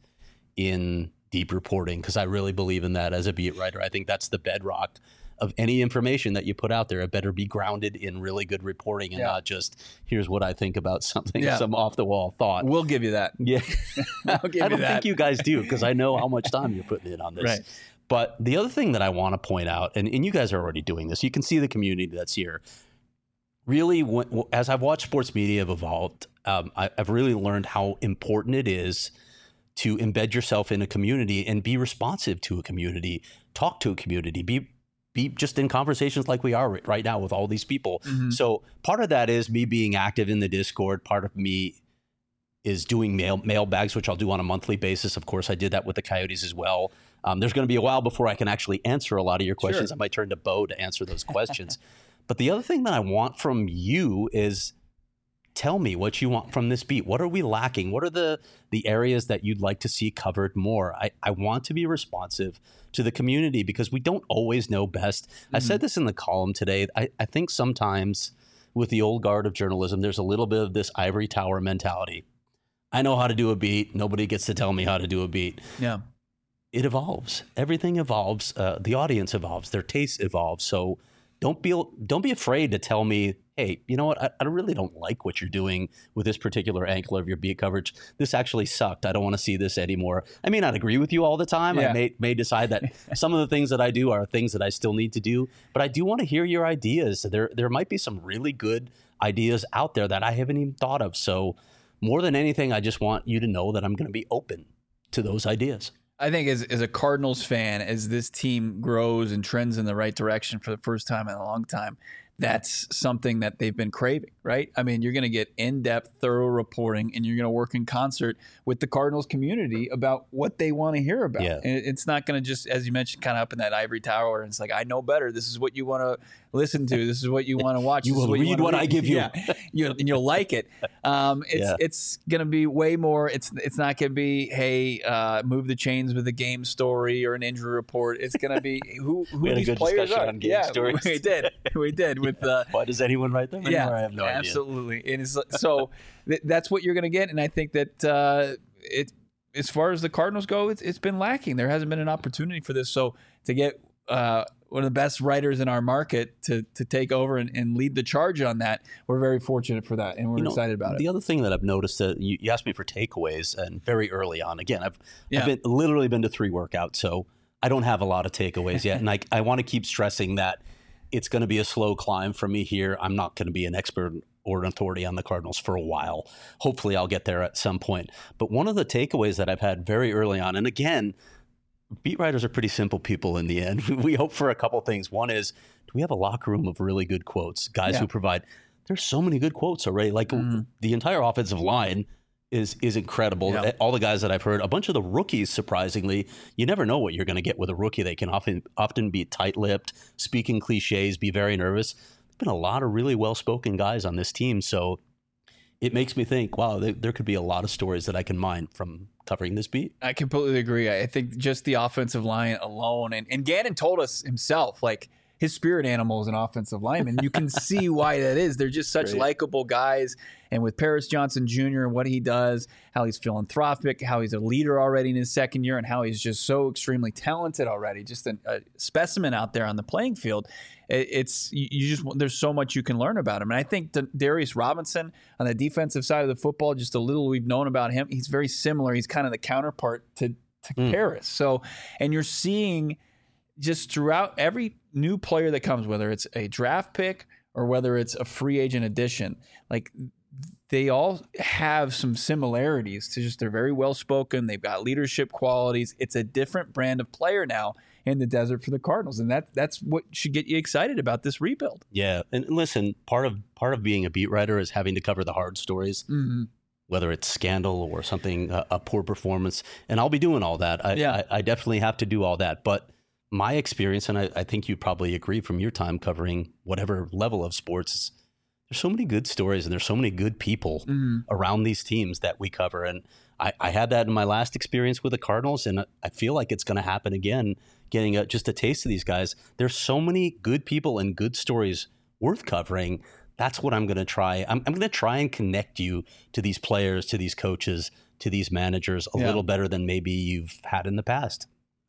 B: in deep reporting, because I really believe in that as a beat writer. I think that's the bedrock of any information that you put out there. It better be grounded in really good reporting and yeah. not just, here's what I think about something, yeah. some off-the-wall thought.
A: We'll give you that.
B: Yeah.
A: I'll give
B: I don't
A: you that.
B: think you guys do, because I know how much time you're putting in on this.
A: Right.
B: But the other thing that I want to point out, and, and you guys are already doing this, you can see the community that's here. Really, when, as I've watched sports media have evolved, um, I, I've really learned how important it is to embed yourself in a community and be responsive to a community, talk to a community, be be just in conversations like we are right now with all these people. Mm-hmm. So part of that is me being active in the Discord. Part of me is doing mail mail bags, which I'll do on a monthly basis. Of course, I did that with the Coyotes as well. Um, there's going to be a while before I can actually answer a lot of your questions. Sure. I might turn to Bo to answer those questions. But the other thing that I want from you is, tell me what you want from this beat. What are we lacking? What are the the areas that you'd like to see covered more? I, I want to be responsive to the community because we don't always know best. Mm-hmm. I said this in the column today. I, I think sometimes with the old guard of journalism, there's a little bit of this ivory tower mentality. I know how to do a beat. Nobody gets to tell me how to do a beat.
A: Yeah.
B: It evolves. Everything evolves. Uh, the audience evolves. Their tastes evolve. So don't be don't be afraid to tell me, hey, you know what? I, I really don't like what you're doing with this particular angle of your beat coverage. This actually sucked. I don't want to see this anymore. I may not agree with you all the time. Yeah. I may may decide that some of the things that I do are things that I still need to do, but I do want to hear your ideas. There there might be some really good ideas out there that I haven't even thought of. So more than anything, I just want you to know that I'm going to be open to those ideas.
A: I think as, as a Cardinals fan, as this team grows and trends in the right direction for the first time in a long time, that's something that they've been craving, right? I mean, you're going to get in-depth, thorough reporting, and you're going to work in concert with the Cardinals community about what they want to hear about.
B: Yeah.
A: And it's not going to just, as you mentioned, kind of up in that ivory tower, and it's like, I know better. This is what you want to listen to. This is what you want to watch.
B: You
A: This is
B: will
A: what
B: read
A: wanna
B: what I give you.
A: Yeah. you and you'll like it. Um, it's
B: Yeah.
A: it's going to be way more. It's it's not going to be, hey, uh, move the chains with a game story or an injury report. It's going to be who, who
B: We had a
A: these
B: good
A: players
B: discussion
A: are.
B: on game
A: yeah,
B: stories.
A: we did. We did with uh,
B: Why does anyone write them?
A: yeah,
B: Anymore? I have no
A: absolutely. And it's, so th- that's what you're going to get. And I think that uh, it, as far as the Cardinals go, it's, it's been lacking. There hasn't been an opportunity for this. So to get uh, one of the best writers in our market to to take over and, and lead the charge on that, we're very fortunate for that, and we're
B: You know,
A: excited about
B: the
A: it.
B: other thing that I've noticed that you, you asked me for takeaways, and very early on, again, I've,
A: Yeah.
B: I've been, literally been to three workouts, so I don't have a lot of takeaways yet. And I, I want to keep stressing that it's going to be a slow climb for me here. I'm not going to be an expert or an authority on the Cardinals for a while. Hopefully I'll get there at some point. But one of the takeaways that I've had very early on, and again, beat writers are pretty simple people in the end. We hope for a couple things. One is, do we have a locker room of really good quotes? Guys
A: Yeah.
B: who provide, there's so many good quotes already. Like
A: Mhm.
B: the entire offensive line is is incredible.
A: Yeah.
B: All the guys that I've heard, a bunch of the rookies, surprisingly, you never know what you're going to get with a rookie. They can often often be tight-lipped, speaking cliches, be very nervous. There's been a lot of really well-spoken guys on this team. So it makes me think, wow, there, there could be a lot of stories that I can mine from covering this beat.
A: I completely agree. I think just the offensive line alone, and, and Gannon told us himself, like, his spirit animal is an offensive lineman. You can see why that is. They're just such
B: Great.
A: likable guys. And with Paris Johnson Junior and what he does, how he's philanthropic, how he's a leader already in his second year, and how he's just so extremely talented already, just an, a specimen out there on the playing field. It, it's you, you just there's so much you can learn about him. And I think D- Darius Robinson on the defensive side of the football, just a little we've known about him, he's very similar. He's kind of the counterpart to to
B: Mm.
A: Paris. So, and you're seeing just throughout every new player that comes, whether it's a draft pick or whether it's a free agent addition, like they all have some similarities to just they're very well spoken. They've got leadership qualities. It's a different brand of player now in the desert for the Cardinals, and that that's what should get you excited about this rebuild.
B: Yeah, and listen, part of part of being a beat writer is having to cover the hard stories.
A: Mm-hmm.
B: Whether it's scandal or something, a, a poor performance. And I'll be doing all that. I,
A: Yeah.
B: I, I definitely have to do all that. But my experience, and I, I think you probably agree from your time covering whatever level of sports, is there's so many good stories and there's so many good people
A: Mm-hmm.
B: around these teams that we cover. And I, I had that in my last experience with the Cardinals, and I feel like it's going to happen again, getting a, just a taste of these guys. There's so many good people and good stories worth covering. That's what I'm going to try. I'm, I'm going to try and connect you to these players, to these coaches, to these managers a
A: Yeah.
B: little better than maybe you've had in the past.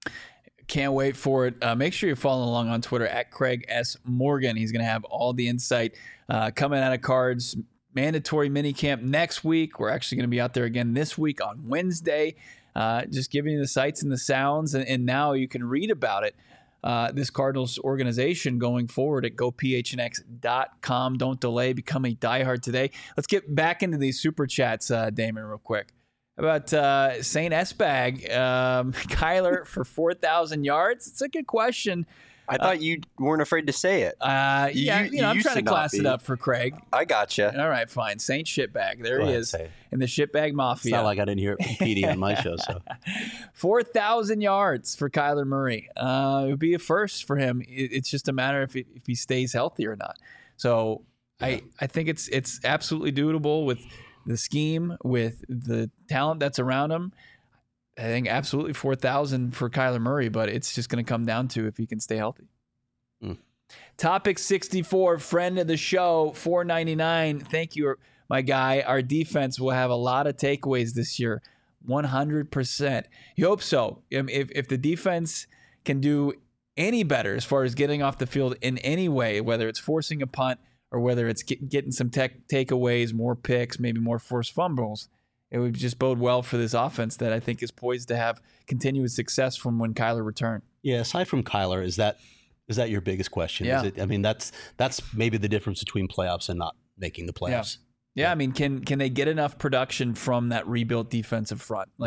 A: Can't wait for it. Uh, make sure you're following along on Twitter at Craig S. Morgan. He's going to have all the insight uh, coming out of Cards. Mandatory minicamp next week. We're actually going to be out there again this week on Wednesday, uh, just giving you the sights and the sounds. And, and now you can read about it. Uh, this Cardinals organization going forward at go p h n x dot com. Don't delay. Become a diehard today. Let's get back into these super chats, uh, Damon, real quick. How about uh, Saint Esbag, um, Kyler for four thousand yards? It's a good question.
C: I thought you weren't afraid to say it.
A: Uh,
C: You-
A: yeah,
C: you
A: you know, I'm
C: used
A: trying to
C: to not
A: class it
C: be.
A: up for Craig.
C: I gotcha.
A: All right, fine. Saint Shitbag. There
B: Go
A: he
B: ahead,
A: is
B: say it.
A: in the Shitbag
B: It's
A: Mafia.
B: not like I didn't hear it competing on my show. So
A: four thousand yards for Kyler Murray. Uh, it would be a first for him. It, it's just a matter if, it, if he stays healthy or not. So I, I think it's it's absolutely doable with the scheme, with the talent that's around him. I think absolutely four thousand for Kyler Murray, but it's just going to come down to if he can stay healthy.
B: Mm.
A: Topic sixty-four, friend of the show, four ninety-nine. Thank you, my guy. Our defense will have a lot of takeaways this year. one hundred percent. You hope so. If, if the defense can do any better as far as getting off the field in any way, whether it's forcing a punt or whether it's get, getting some tech takeaways, more picks, maybe more forced fumbles, it would just bode well for this offense that I think is poised to have continuous success from when Kyler returned.
B: yeah, aside from Kyler, is that is that your biggest question?
A: Yeah.
B: Is it, I mean, that's that's maybe the difference between playoffs and not making the playoffs.
A: Yeah, I mean, can can they get enough production from that rebuilt defensive front? Like,
B: Yeah.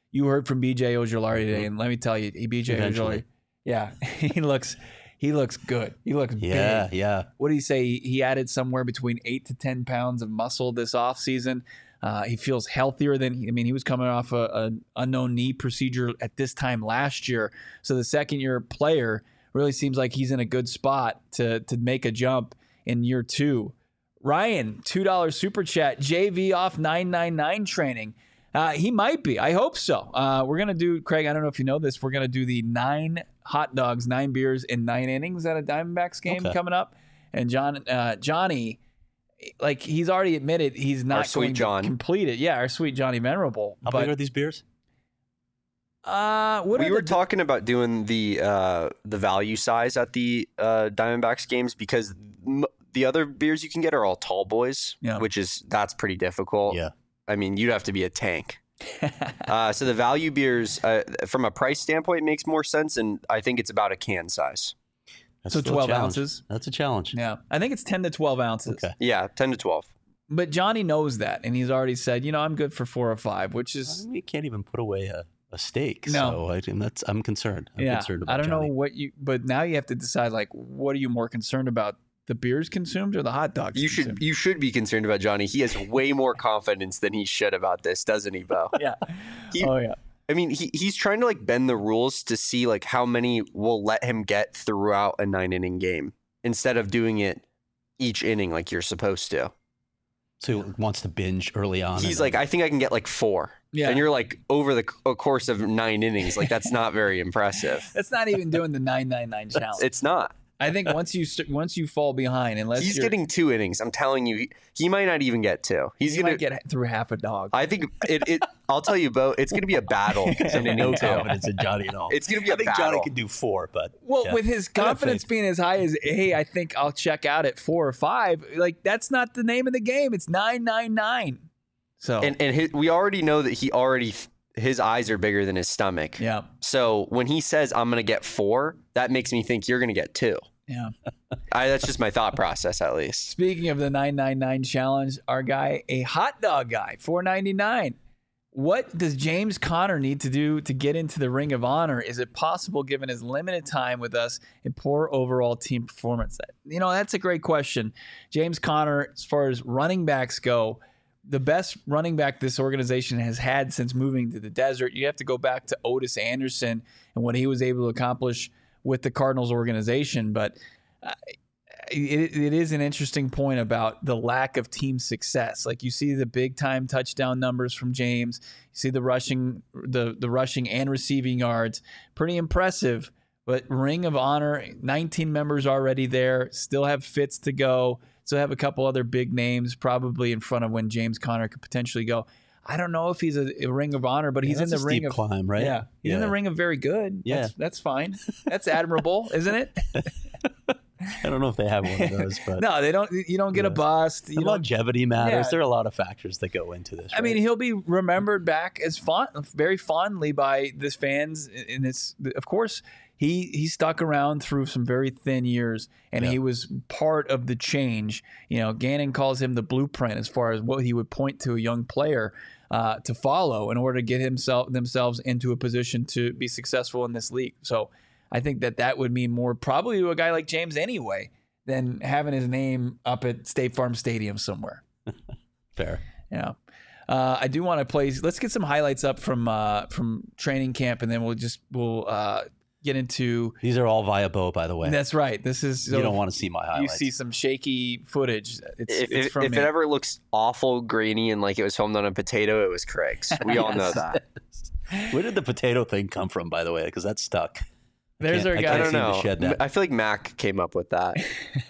A: You heard from B J Ojulari today, and let me tell you, B J Ojulari, yeah, he looks he looks good. He looks
B: yeah,
A: big.
B: Yeah,
A: What did he say? He added somewhere between eight to ten pounds of muscle this offseason. Uh, he feels healthier than I mean, he was coming off a, a unknown knee procedure at this time last year. So the second year player really seems like he's in a good spot to to make a jump in year two. Ryan, two dollars super chat, J V off nine ninety-nine training. Uh, he might be. I hope so. Uh, we're going to do, Craig, I don't know if you know this, we're going to do the nine hot dogs, nine beers in nine innings at a Diamondbacks game
B: okay.
A: coming up. And John, uh, Johnny, like he's already admitted he's not
C: Our sweet
A: going
C: John.
A: to complete it. Yeah, our sweet Johnny Venerable.
B: How
A: but,
B: big are these beers?
A: Uh, what
C: we
A: are
C: were
A: the,
C: talking about doing the uh, the value size at the uh, Diamondbacks games because m- the other beers you can get are all tall boys,
A: Yeah.
C: which is that's pretty difficult.
B: Yeah.
C: I mean, you'd have to be a tank. uh, so the value beers, uh, from a price standpoint, makes more sense, and I think it's about a can size.
B: That's
A: So
B: still a
A: twelve
B: challenge.
A: ounces?
B: That's a challenge.
A: Yeah, I think it's ten to twelve ounces.
B: Okay.
C: Yeah, ten to twelve.
A: But Johnny knows that, and he's already said, you know, I'm good for four or five, which
B: I
A: is
B: mean, you can't even put away a, a steak.
A: No.
B: So I think that's I'm concerned. I'm
A: yeah.
B: concerned about
A: I don't
B: Johnny.
A: know what you, but now you have to decide like, what are you more concerned about? The beers consumed or the hot dogs?
C: You should
A: consumed?
C: you should be concerned about Johnny. He has way more confidence than he should about this, doesn't he, Bo?
A: Yeah.
C: He-
A: oh yeah.
C: I mean, he he's trying to like bend the rules to see like how many will let him get throughout a nine inning game instead of doing it each inning like you're supposed to.
B: So he wants to binge early on.
C: He's
B: and
C: like,
B: then-
C: I think I can get like four.
A: Yeah.
C: And you're like over the c- course of nine innings, like that's not very impressive.
A: That's not even doing the nine ninety-nine challenge.
C: It's not.
A: I think once you st- once you fall behind, unless
C: He's
A: you're,
C: getting two innings. I'm telling you, he, he might not even get two. He's
A: you
C: gonna
A: might get through half a dog.
C: I think it. it I'll tell you, Bo. It's gonna be a battle.
B: I
C: in
B: have no
C: inning two.
B: confidence in Johnny at all.
C: It's gonna be
B: I
C: a
B: think
C: battle.
B: Johnny could do four, but
A: Well,
B: yeah.
A: with his
B: I have
A: confidence
B: faith.
A: being as high as, hey, I think I'll check out at four or five. Like that's not the name of the game. It's nine nine nine. So
C: And and his, we already know that he already his eyes are bigger than his stomach.
A: yeah,
C: So when he says I'm gonna get four, that makes me think you're gonna get two.
A: yeah.
C: I, that's just my thought process, at least.
A: Speaking of the nine ninety-nine challenge, our guy, a hot dog guy, four ninety-nine. What does James Conner need to do to get into the Ring of Honor? Is it possible given his limited time with us and poor overall team performance? You know, that's a great question. James Conner, as far as running backs go, the best running back this organization has had since moving to the desert. You have to go back to Otis Anderson and what he was able to accomplish with the Cardinals organization. But uh, it, it is an interesting point about the lack of team success. Like you see the big time touchdown numbers from James, you see the rushing, the the rushing and receiving yards, pretty impressive. But Ring of Honor, nineteen members already there, still have Fitz to go, still have a couple other big names probably in front of when James Conner could potentially go. I don't know if he's a, a Ring of Honor, but
B: Yeah,
A: he's in
B: that's
A: the
B: a
A: ring
B: steep
A: of
B: climb, right?
A: Yeah, he's in
B: Yeah.
A: the ring of very good.
B: Yeah.
A: that's, that's fine. That's admirable, isn't it?
B: I don't know if they have one of those, but
A: No, they don't. You don't get a
B: Yeah.
A: bust. You
B: the
A: don't,
B: longevity matters.
A: Yeah.
B: There are a lot of factors that go into this.
A: I mean,
B: right?
A: he'll be remembered back as fond, very fondly by this fans. In this, of course, he he stuck around through some very thin years, and
B: Yeah.
A: he was part of the change. You know, Gannon calls him the blueprint as far as what he would point to a young player uh, to follow in order to get himself themselves into a position to be successful in this league. So, I think that that would mean more probably to a guy like James anyway than having his name up at State Farm Stadium somewhere.
B: fair.
A: Yeah. Uh, I do want to play. Let's get some highlights up from uh, from training camp, and then we'll just we'll uh, get into.
B: These are all via Bo, by the way.
A: That's right. This is
B: you don't want to see my
A: you
B: highlights.
A: see some shaky footage. It's,
C: If,
A: it's
C: it,
A: from
C: if
A: me.
C: it ever looks awful, grainy, and like it was filmed on a potato, it was Craig's. We all know that.
B: Where did the potato thing come from, by the way? Because that's stuck.
A: There's
B: can't-
A: our
B: I
A: guy.
C: I
B: can't
C: don't
B: seem to
C: know.
B: shed that.
C: I feel like Mac came up with that.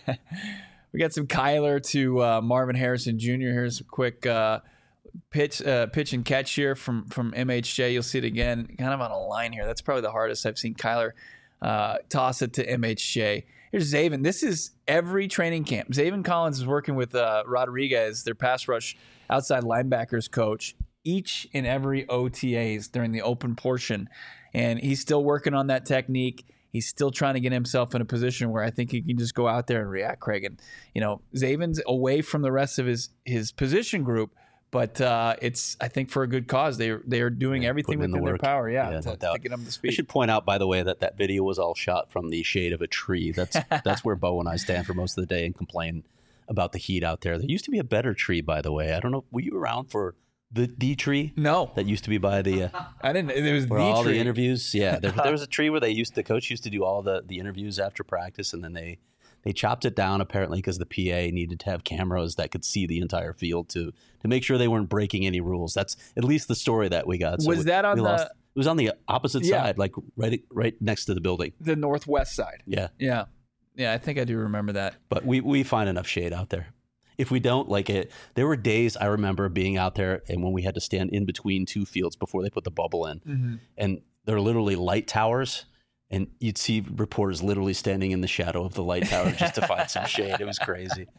A: We got some Kyler to uh, Marvin Harrison Junior Here's some quick uh, pitch, uh, pitch and catch here from from M H J. You'll see it again, kind of on a line here. That's probably the hardest I've seen Kyler uh, toss it to M H J. Here's Zaven. This is every training camp. Zaven Collins is working with uh, Rodriguez, their pass rush outside linebackers coach, each and every O T As during the open portion, and he's still working on that technique. He's still trying to get himself in a position where I think he can just go out there and react, Craig. And, you know, Zaven's away from the rest of his his position group, but uh, it's I think for a good cause. They they are doing
B: Yeah,
A: everything
B: putting in
A: within
B: the
A: their
B: work.
A: power, yeah,
B: Yeah,
A: to,
B: no doubt.
A: to get them to
B: I
A: speed.
B: should point out, by the way, that that video was all shot from the shade of a tree. That's that's where Bo and I stand for most of the day and complain about the heat out there. There used to be a better tree, by the way. I don't know. Were you around for the the tree?
A: No,
B: That used to be by the uh,
A: I didn't. It was
B: where
A: the
B: all
A: tree.
B: the interviews. Yeah, there, there was a tree where they used the coach used to do all the the interviews after practice, and then they they chopped it down apparently because the P A needed to have cameras that could see the entire field to to make sure they weren't breaking any rules. That's at least the story that we got. So
A: Was
B: we-
A: that on
B: we
A: the-
B: lost- It was on the opposite
A: Yeah.
B: side, like right right next to the building.
A: the northwest side.
B: Yeah,
A: Yeah, yeah, I think I do remember that.
B: but we we find enough shade out there. If we don't, like it, there were days I remember being out there and when we had to stand in between two fields before they put the bubble in,
A: Mm-hmm.
B: and they're literally light towers, and you'd see reporters literally standing in the shadow of the light tower just to find some shade. It was crazy.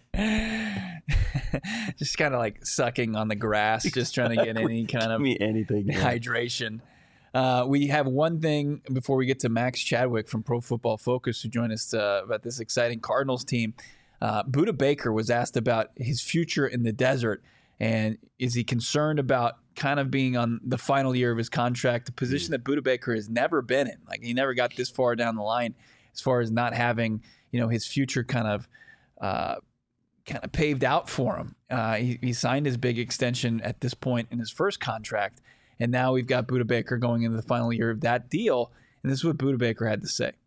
A: Just kind of like sucking on the grass, just trying to get any kind
B: Give
A: of
B: me anything. man.
A: hydration. Uh, we have one thing before we get to Max Chadwick from Pro Football Focus, who joined us uh, about this exciting Cardinals team. Uh, Budda Baker was asked about his future in the desert, and is he concerned about kind of being on the final year of his contract, a position that Budda Baker has never been in. Like, he never got this far down the line as far as not having, you know, his future kind of uh, kind of paved out for him. Uh, he, he signed his big extension at this point in his first contract, and now we've got Budda Baker going into the final year of that deal, and this is what Budda Baker had to say.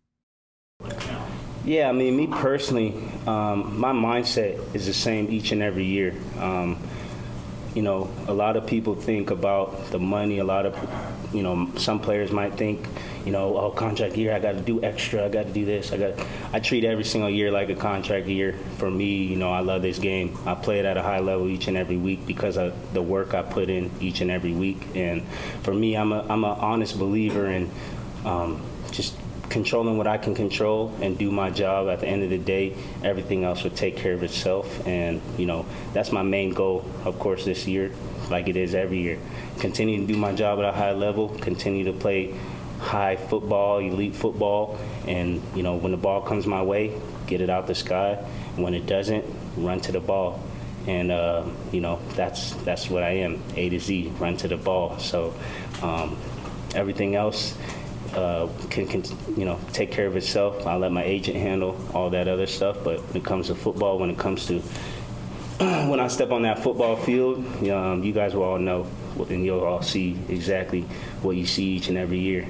F: Yeah, I mean, me personally, um, my mindset is the same each and every year. Um, you know, a lot of people think about the money. A lot of, you know, some players might think, you know, oh, contract year, I got to do extra. I got to do this. I got. I treat every single year like a contract year. For me, you know, I love this game. I play it at a high level each and every week because of the work I put in each and every week. And for me, I'm a I'm an honest believer in um, just controlling what I can control and do my job. At the end of the day, everything else will take care of itself. And, you know, that's my main goal, of course, this year, like it is every year. Continue to do my job at a high level, continue to play high football, elite football, and, you know, when the ball comes my way, get it out the sky. When it doesn't, run to the ball. And, uh, you know, that's that's what I am, A to Z, run to the ball. So um, everything else, Uh, can, can you know take care of itself. I'll let my agent handle all that other stuff. But when it comes to football, when it comes to when I step on that football field, um, you guys will all know, and you'll all see exactly what you see each and every year.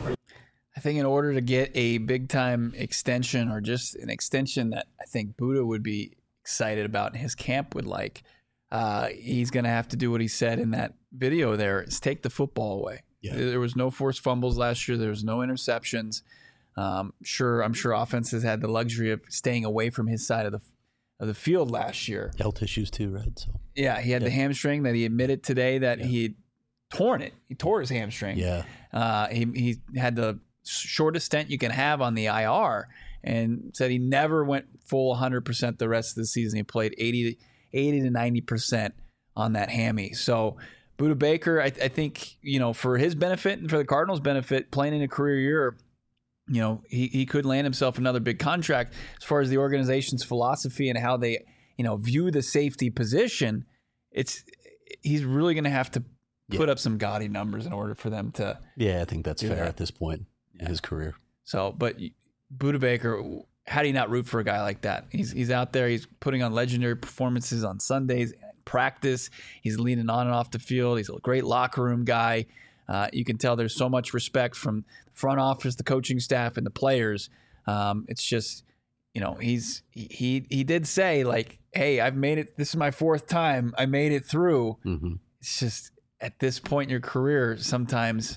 A: I think in order to get a big time extension, or just an extension that I think Budda would be excited about and his camp would like, uh, he's going to have to do what he said in that video there, is take the football away.
B: Yeah.
A: There was no forced fumbles last year. There was no interceptions. Um, sure, I'm sure offenses had the luxury of staying away from his side of the of the field last year.
B: Health issues too, right? So
A: Yeah, he had the
B: Yeah.
A: hamstring that he admitted today that
B: Yeah.
A: he had torn it. He tore his hamstring.
B: yeah,
A: Uh, he he had the shortest stint you can have on the I R, and said he never went full one hundred percent the rest of the season. He played eighty to ninety percent on that hammy. So Budda Baker, I, I think, you know, for his benefit and for the Cardinals' benefit, playing in a career year, you know, he, he could land himself another big contract. As far as the organization's philosophy and how they, you know, view the safety position, it's he's really going to have to put
B: Yeah.
A: up some gaudy numbers in order for them to.
B: yeah. I think that's
A: Do
B: fair
A: that.
B: at this point in his career.
A: So, but Budda Baker, how do you not root for a guy like that? He's he's out there. He's putting on legendary performances on Sundays, practice. He's leaning on and off the field. He's a great locker room guy. Uh, you can tell there's so much respect from the front office, the coaching staff, and the players. Um, it's just, you know, he's he he did say, like, hey, I've made it. This is my fourth time. I made it through.
B: Mm-hmm.
A: It's just at this point in your career, sometimes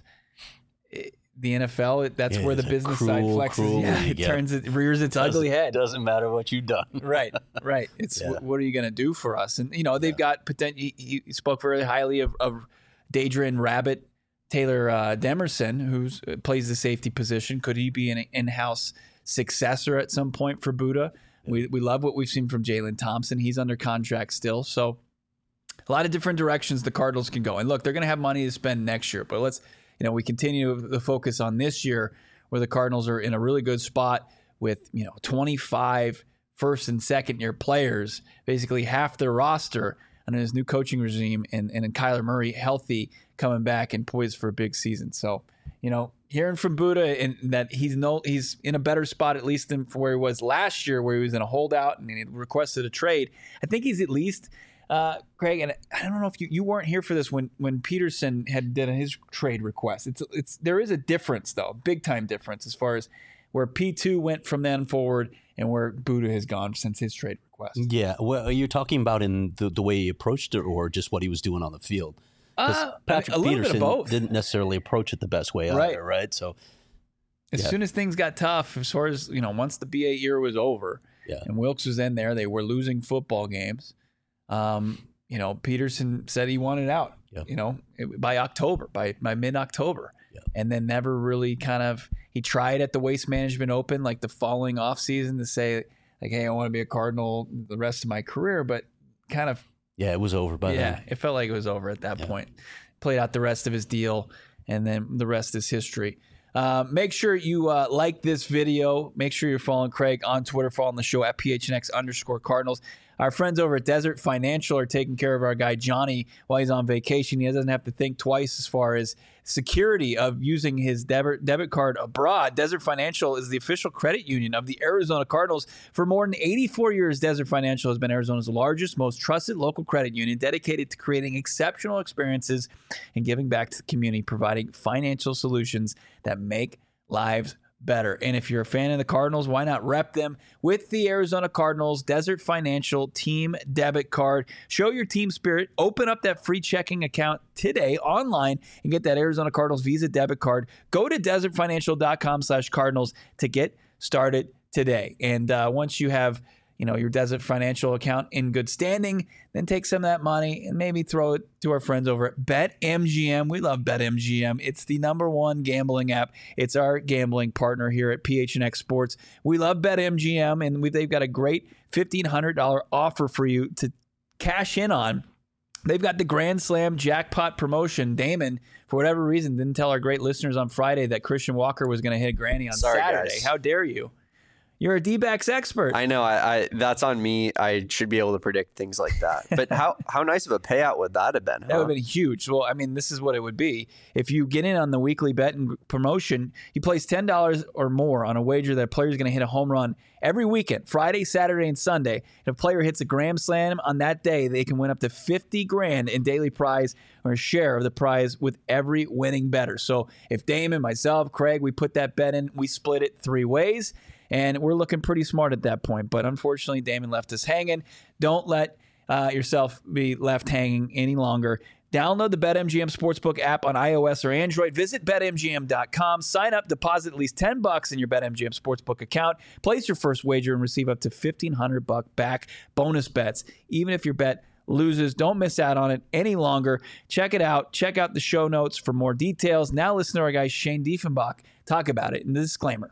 A: it, the N F L, it, that's
B: Yeah,
A: where the
B: it's a
A: business
B: cruel,
A: side flexes.
B: cruel
A: Yeah,
B: league,
A: it
B: yeah.
A: turns it rears its ugly head.
B: Doesn't matter what you've done.
A: Right, right. It's
B: Yeah.
A: wh- what are you going to do for us? And you know they've got potential. He, he spoke very highly of, of Daedrin Rabbit, Taylor uh, Demerson, who plays the safety position. Could he be an in-house successor at some point for Budda? We we love what we've seen from Jalen Thompson. He's under contract still, so a lot of different directions the Cardinals can go. And look, they're going to have money to spend next year, but let's you know we continue the focus on this year, where the Cardinals are in a really good spot with you know twenty-five first and second year players, basically half their roster under his new coaching regime, and and Kyler Murray healthy, coming back and poised for a big season. So, you know, hearing from Buddha and that he's no he's in a better spot at least than where he was last year, where he was in a holdout and he requested a trade. I think he's at least uh, Craig, and I don't know if you, you weren't here for this when when Peterson had done his trade request. It's it's there is a difference though, big time difference as far as where P two went from then forward and where Buddha has gone since his trade request.
B: Yeah, well, are you talking about in the, the way he approached it, or just what he was doing on the field?
A: Uh,
B: Patrick
A: a little
B: Peterson
A: bit of both.
B: didn't necessarily approach it the best way
A: Right.
B: either, right? So
A: as
B: yeah.
A: soon as things got tough, as far as, you know, once the B A year was over
B: Yeah.
A: and Wilkes was in there, they were losing football games. Um, you know, Peterson said he wanted out,
B: Yeah.
A: you know, it- by October, by, by mid-October.
B: Yeah.
A: And then never really kind of, he tried at the Waste Management Open, like the following off season, to say, like, hey, I want to be a Cardinal the rest of my career, but kind of,
B: yeah, it was over by
A: yeah,
B: then.
A: it felt like it was over at that
B: Yeah.
A: point. Played out the rest of his deal, and then the rest is history. Uh, make sure you uh, like this video. Make sure you're following Craig on Twitter, following the show at P H N X underscore Cardinals. Our friends over at Desert Financial are taking care of our guy Johnny while he's on vacation. He doesn't have to think twice as far as security of using his debit debit card abroad. Desert Financial is the official credit union of the Arizona Cardinals. For more than eighty-four years, Desert Financial has been Arizona's largest, most trusted local credit union, dedicated to creating exceptional experiences and giving back to the community, providing financial solutions that make lives better. And if you're a fan of the Cardinals, why not rep them with the Arizona Cardinals Desert Financial Team Debit Card? Show your team spirit. Open up that free checking account today online and get that Arizona Cardinals Visa Debit Card. Go to desertfinancial.com slash Cardinals to get started today. And uh, once you have, you know, your Desert Financial account in good standing, then take some of that money and maybe throw it to our friends over at BetMGM. We love BetMGM. It's the number one gambling app. It's our gambling partner here at P H N X Sports. We love BetMGM, and we've, they've got a great fifteen hundred dollars offer for you to cash in on. They've got the Grand Slam jackpot promotion. Damon, for whatever reason, didn't tell our great listeners on Friday that Christian Walker was going to hit a granny on
C: Sorry,
A: Saturday.
C: guys.
A: How dare you? You're a D-backs expert.
C: I know. I, I that's on me. I should be able to predict things like that. But how how nice of a payout would that have been? Huh?
A: That would have been huge. Well, I mean, this is what it would be. If you get in on the weekly bet and promotion, you place ten dollars or more on a wager that a player is going to hit a home run every weekend, Friday, Saturday, and Sunday. If a player hits a grand slam on that day, they can win up to fifty grand in daily prize or a share of the prize with every winning bettor. So if Damon, myself, Craig, we put that bet in, we split it three ways. And we're looking pretty smart at that point. But unfortunately, Damon left us hanging. Don't let uh, yourself be left hanging any longer. Download the BetMGM Sportsbook app on iOS or Android. Visit Bet M G M dot com. Sign up, deposit at least ten bucks in your BetMGM Sportsbook account. Place your first wager and receive up to fifteen hundred bucks back bonus bets. Even if your bet loses, don't miss out on it any longer. Check it out. Check out the show notes for more details. Now listen to our guy Shane Diefenbach talk about it in the disclaimer.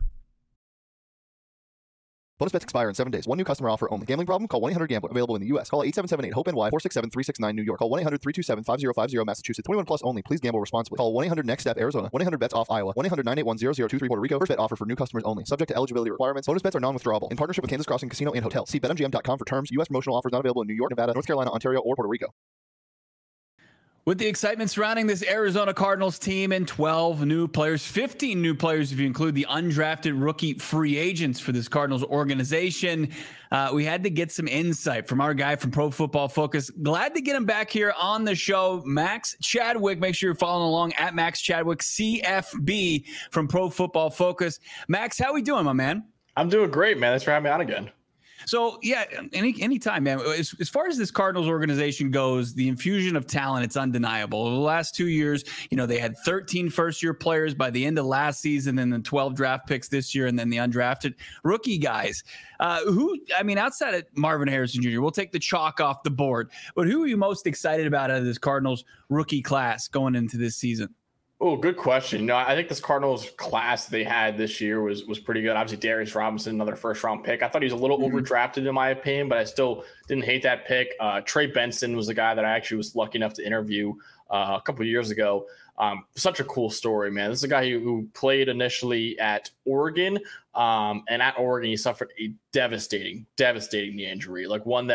G: Bonus bets expire in seven days. One new customer offer only. Gambling problem? Call one eight hundred gambler. Available in the U S. Call eight seven seven eight hope N Y four six seven three six nine New York. Call one eight hundred three two seven five zero five zero Massachusetts. twenty-one plus only. Please gamble responsibly. Call one eight hundred next step Arizona. one eight hundred bets off Iowa. one eight hundred nine eight one zero zero two three Puerto Rico. First bet offer for new customers only. Subject to eligibility requirements. Bonus bets are non-withdrawable. In partnership with Kansas Crossing Casino and Hotel. See bet M G M dot com for terms. U S promotional offers not available in New York, Nevada, North Carolina, Ontario, or Puerto Rico.
A: With the excitement surrounding this Arizona Cardinals team and twelve new players, fifteen new players if you include the undrafted rookie free agents for this Cardinals organization, uh, we had to get some insight from our guy from Pro Football Focus. Glad to get him back here on the show, Max Chadwick. Make sure you're following along at Max Chadwick C F B from Pro Football Focus. Max, how we doing, my man?
H: I'm doing great, man. Thanks for having me on again.
A: So, yeah, any anytime, man. As, as far as this Cardinals organization goes, the infusion of talent, it's undeniable. Over the last two years, you know, they had thirteen first-year players by the end of last season, and then twelve draft picks this year, and then the undrafted rookie guys. Uh, who, I mean, outside of Marvin Harrison Junior, we'll take the chalk off the board. But who are you most excited about out of this Cardinals rookie class going into this season?
H: Oh, good question. No, I think this Cardinals class they had this year was was pretty good. Obviously, Darius Robinson, another first round pick. I thought he was a little mm-hmm. overdrafted in my opinion, but I still didn't hate that pick. Uh, Trey Benson was a guy that I actually was lucky enough to interview uh, a couple of years ago. Um, such a cool story, man. This is a guy who, who played initially at Oregon, um, and at Oregon he suffered a devastating, devastating knee injury, like one that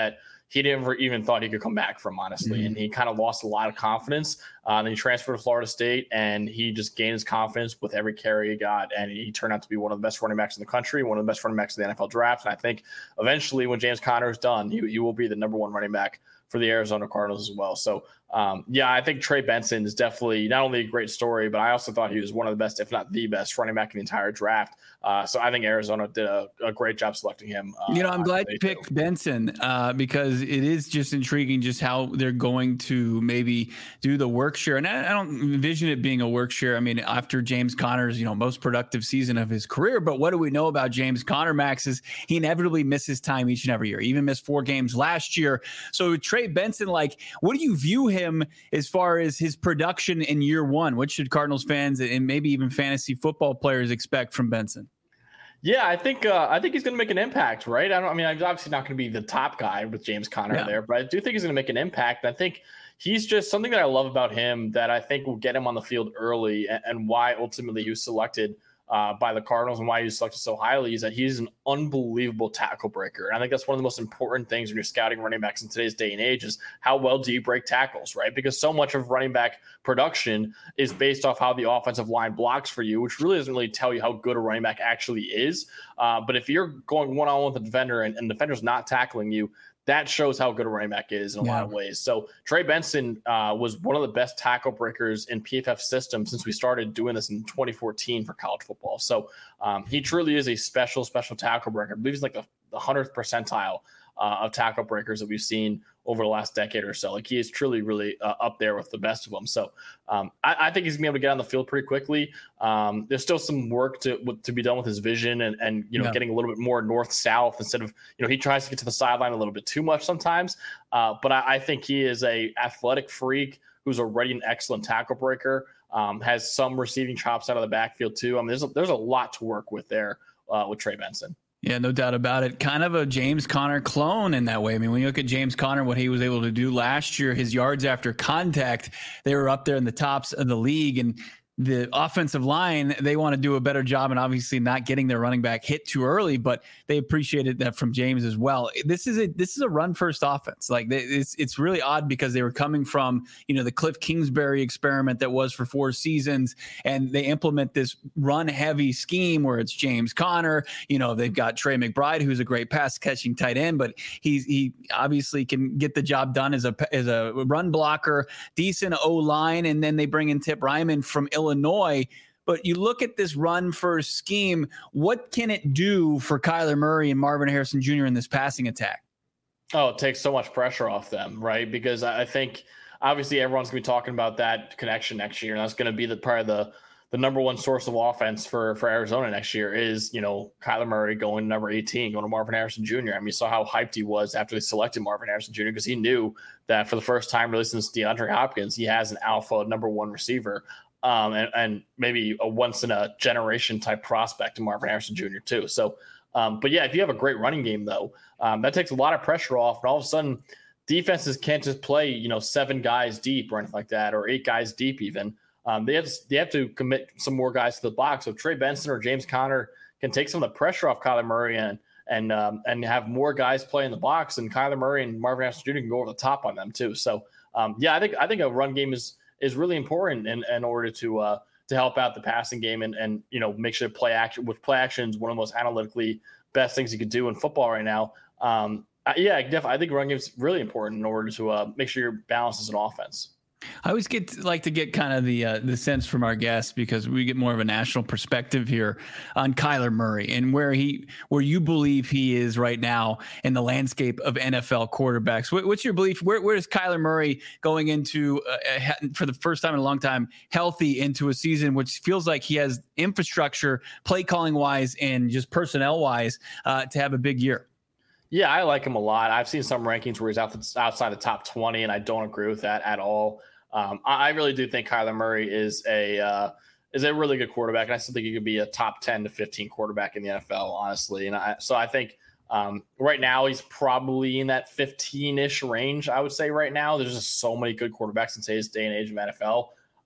H: he never even thought he could come back from, honestly. Mm-hmm. And he kind of lost a lot of confidence. Uh, then he transferred to Florida State, and he just gained his confidence with every carry he got. And he turned out to be one of the best running backs in the country, one of the best running backs in the N F L draft. And I think eventually when James Conner is done, he, he will be the number one running back for the Arizona Cardinals as well. So, um, yeah, I think Trey Benson is definitely not only a great story, but I also thought he was one of the best, if not the best, running back in the entire draft. Uh, so I think Arizona did a, a great job selecting him. Uh,
A: you know, I'm glad you picked Benson uh, because it is just intriguing just how they're going to maybe do the work share. And I, I don't envision it being a work share. I mean, after James Conner's, you know, most productive season of his career. But what do we know about James Conner, Max, is he inevitably misses time each and every year. He even missed four games last year. So Trey Benson, like, what do you view him as far as his production in year one? What should Cardinals fans and maybe even fantasy football players expect from Benson?
H: Yeah, I think uh, I think he's going to make an impact, right? I don't. I mean, he's obviously not going to be the top guy with James Conner yeah. there, but I do think he's going to make an impact. And I think he's just something that I love about him that I think will get him on the field early, and, and why ultimately he was selected uh, by the Cardinals and why he was selected so highly is that he's an unbelievable tackle breaker. And I think that's one of the most important things when you're scouting running backs in today's day and age is how well do you break tackles, right? Because so much of running back production is based off how the offensive line blocks for you, which really doesn't really tell you how good a running back actually is. Uh, but if you're going one-on-one with a defender and, and the defender's not tackling you, that shows how good a running back is in a yeah. lot of ways. So Trey Benson uh, was one of the best tackle breakers in P F F system since we started doing this in twenty fourteen for college football. So um, he truly is a special, special tackle breaker. I believe he's like the, the hundredth percentile uh, of tackle breakers that we've seen over the last decade or so. Like he is truly, really uh, up there with the best of them. So um, I, I think he's gonna be able to get on the field pretty quickly. Um, there's still some work to to be done with his vision and and you know yeah. getting a little bit more north south instead of you know he tries to get to the sideline a little bit too much sometimes. Uh, but I, I think he is a athletic freak who's already an excellent tackle breaker. Um, has some receiving chops out of the backfield too. I mean, there's a, there's a lot to work with there uh, with Trey Benson.
A: Yeah, no doubt about it. Kind of a James Conner clone in that way. I mean, when you look at James Conner, what he was able to do last year, his yards after contact, they were up there in the tops of the league. And the offensive line, they want to do a better job and obviously not getting their running back hit too early, but they appreciated that from James as well. This is a this is a run first offense. Like it's it's really odd because they were coming from, you know, the Cliff Kingsbury experiment that was for four seasons, and they implement this run heavy scheme where it's James Conner. You know, they've got Trey McBride, who's a great pass catching tight end, but he's he obviously can get the job done as a as a run blocker, decent O line, and then they bring in Tip Ryman from Illinois. Illinois, but you look at this run first scheme, what can it do for Kyler Murray and Marvin Harrison Junior in this passing attack?
H: Oh, it takes so much pressure off them, right? Because I think obviously everyone's going to be talking about that connection next year, and that's going to be the probably the the number one source of offense for for Arizona next year is, you know, Kyler Murray going to number eighteen, going to Marvin Harrison Junior I mean, you saw how hyped he was after they selected Marvin Harrison Junior because he knew that for the first time really since DeAndre Hopkins, he has an alpha number one receiver. Um, and, and maybe a once in a generation type prospect in Marvin Harrison Junior too. So, um, but yeah, if you have a great running game though, um, that takes a lot of pressure off, and all of a sudden defenses can't just play, you know, seven guys deep or anything like that, or eight guys deep even. Um, they have to, they have to commit some more guys to the box. So Trey Benson or James Conner can take some of the pressure off Kyler Murray and and um, and have more guys play in the box, and Kyler Murray and Marvin Harrison Junior can go over the top on them too. So um, yeah, I think I think a run game is. is really important in, in order to uh, to help out the passing game and, and you know make sure play action with play action is one of the most analytically best things you could do in football right now. Um, yeah, definitely. I think run game is really important in order to uh, make sure you're balanced as an offense.
A: I always get to, like to get kind of the uh, the sense from our guests because we get more of a national perspective here on Kyler Murray and where he where you believe he is right now in the landscape of N F L quarterbacks. What, what's your belief? Where where is Kyler Murray going into uh, for the first time in a long time healthy into a season which feels like he has infrastructure, play calling wise, and just personnel wise uh, to have a big year?
H: Yeah, I like him a lot. I've seen some rankings where he's out the, outside the top twenty, and I don't agree with that at all. Um, I, I really do think Kyler Murray is a uh, is a really good quarterback, and I still think he could be a top ten to fifteen quarterback in the N F L, honestly. And I, so I think um, right now he's probably in that fifteen-ish range, I would say right now. There's just so many good quarterbacks in today's day and age of N F L.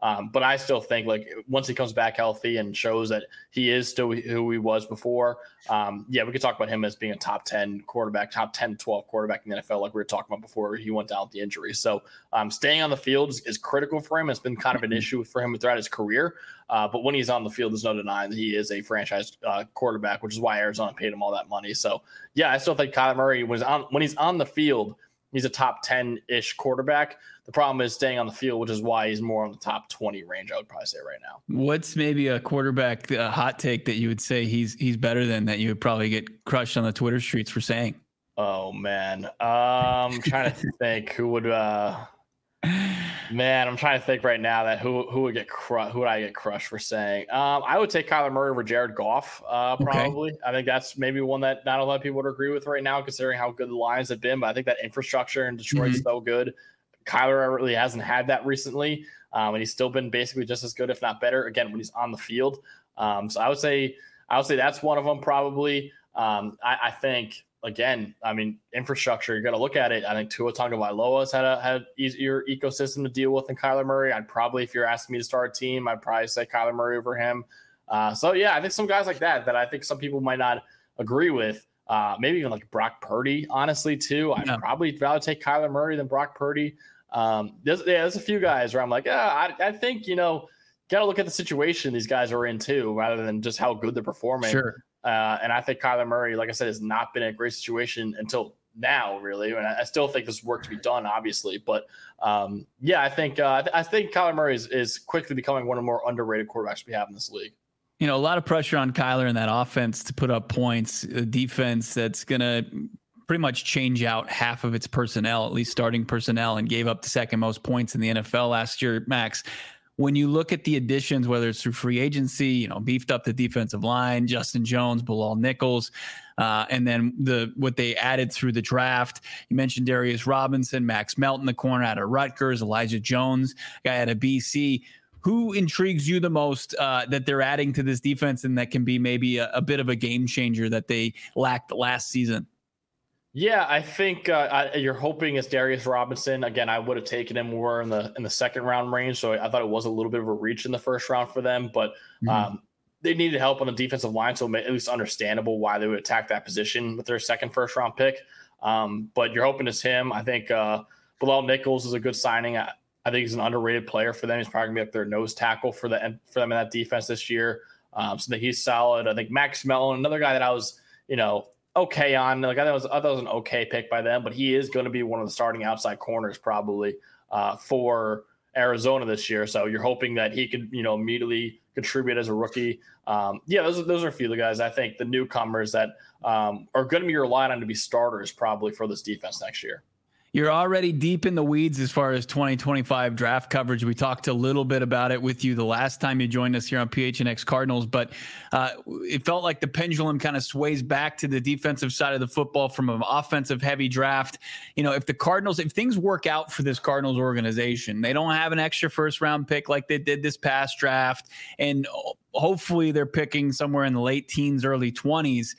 H: Um, but I still think like once he comes back healthy and shows that he is still who he was before, um, yeah, we could talk about him as being a top ten quarterback, top ten, twelve quarterback in the N F L, like we were talking about before he went down with the injury. So um, staying on the field is, is critical for him. It's been kind of an issue for him throughout his career. Uh, but when he's on the field, there's no denying that he is a franchise uh, quarterback, which is why Arizona paid him all that money. So yeah, I still think Kyler Murray was on when he's on the field, he's a top ten-ish quarterback. The problem is staying on the field, which is why he's more on the top twenty range, I would probably say right now.
A: What's maybe a quarterback uh, hot take that you would say he's he's better than that you would probably get crushed on the Twitter streets for saying?
H: Oh, man. Um, I'm trying to think who would uh, – man, I'm trying to think right now that who who would get cru- who would I get crushed for saying? Um, I would take Kyler Murray over Jared Goff, uh, probably. Okay. I think that's maybe one that not a lot of people would agree with right now, considering how good the Lions have been. But I think that infrastructure in Detroit mm-hmm. is so good. Kyler really hasn't had that recently, um, and he's still been basically just as good, if not better. Again, when he's on the field, um, so I would say I would say that's one of them probably. Um, I, I think again, I mean, infrastructure. You got to look at it. I think Tua Tagovailoa's had a had easier ecosystem to deal with than Kyler Murray. I'd probably, if you're asking me to start a team, I'd probably say Kyler Murray over him. Uh, so yeah, I think some guys like that that I think some people might not agree with. Uh, maybe even like Brock Purdy, honestly, too. I'd yeah. probably rather take Kyler Murray than Brock Purdy. Um, there's, yeah, there's a few guys where I'm like, yeah, I, I think, you know, got to look at the situation these guys are in, too, rather than just how good they're performing.
A: Sure.
H: Uh, and I think Kyler Murray, like I said, has not been in a great situation until now, really. And I, I still think there's work to be done, obviously. But, um, yeah, I think uh, I think Kyler Murray is, is quickly becoming one of the more underrated quarterbacks we have in this league.
A: You know, a lot of pressure on Kyler in that offense to put up points, a defense that's going to pretty much change out half of its personnel, at least starting personnel, and gave up the second most points in the N F L last year, Max. When you look at the additions, whether it's through free agency, you know, beefed up the defensive line, Justin Jones, Bilal Nichols, uh, and then the what they added through the draft. You mentioned Darius Robinson, Max Melton, the corner out of Rutgers, Elijah Jones, guy out of B C. Who intrigues you the most uh, that they're adding to this defense and that can be maybe a, a bit of a game changer that they lacked last season?
H: Yeah, I think uh, I, you're hoping it's Darius Robinson. Again, I would have taken him more in the in the second round range, so I thought it was a little bit of a reach in the first round for them. But mm-hmm. um, they needed help on the defensive line, so at least understandable why they would attack that position with their second first round pick. Um, but you're hoping it's him. I think uh, Bilal Nichols is a good signing. I, I think he's an underrated player for them. He's probably going to be up their nose tackle for the for them in that defense this year. Um, so that he's solid. I think Max Melton, another guy that I was, you know, okay on. Like I thought it was, I thought it was an okay pick by them, but he is going to be one of the starting outside corners probably uh, for Arizona this year. So you're hoping that he could, you know, immediately contribute as a rookie. Um, yeah, those are, those are a few of the guys I think the newcomers that um, are going to be relied on to be starters probably for this defense next year.
A: You're already deep in the weeds as far as twenty twenty-five draft coverage. We talked a little bit about it with you the last time you joined us here on P H N X Cardinals, but uh, it felt like the pendulum kind of sways back to the defensive side of the football from an offensive heavy draft. You know, if the Cardinals, if things work out for this Cardinals organization, they don't have an extra first round pick like they did this past draft, and hopefully they're picking somewhere in the late teens, early twenties.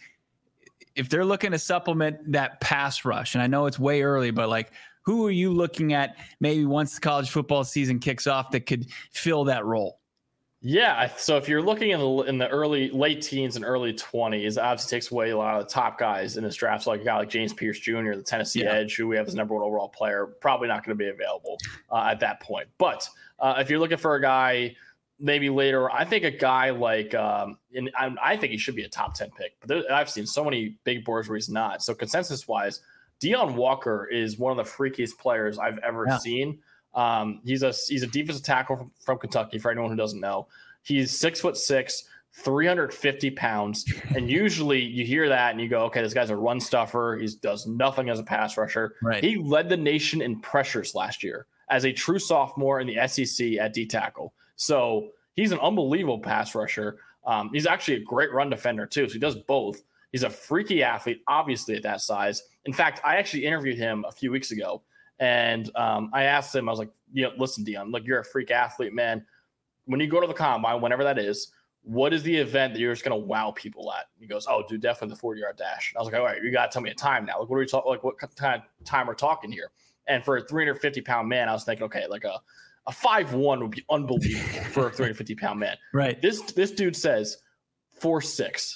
A: If they're looking to supplement that pass rush, and I know it's way early, but like, who are you looking at maybe once the college football season kicks off that could fill that role?
H: Yeah, so if you're looking in the in the early late teens and early twenties, obviously takes away a lot of the top guys in this draft. So like a guy like James Pierce Junior, the Tennessee yeah. edge, who we have as number one overall player, probably not going to be available uh, at that point. But uh, if you're looking for a guy maybe later, I think a guy like, um, and I, I think he should be a top ten pick, but there, I've seen so many big boards where he's not. So consensus wise, Deion Walker is one of the freakiest players I've ever yeah. seen. Um, he's a, he's a defensive tackle from, from Kentucky. For anyone who doesn't know, he's six foot six, three hundred fifty pounds. And usually you hear that and you go, okay, this guy's a run stuffer. He does nothing as a pass rusher.
A: Right.
H: He led the nation in pressures last year as a true sophomore in the S E C at D tackle. So he's an unbelievable pass rusher. Um, he's actually a great run defender too. So he does both. He's a freaky athlete, obviously at that size. In fact, I actually interviewed him a few weeks ago, and um, I asked him, I was like, you know, listen, Deion, look, you're a freak athlete, man. When you go to the combine, whenever that is, what is the event that you're just going to wow people at? He goes, oh, dude, definitely the forty-yard dash. And I was like, all right, you got to tell me a time now. Like, what are we talking? Like, what kind of time we're talking here? And for a three hundred fifty pound man, I was thinking, okay, like a A five one would be unbelievable for a three hundred fifty pound man.
A: Right.
H: This this dude says four six.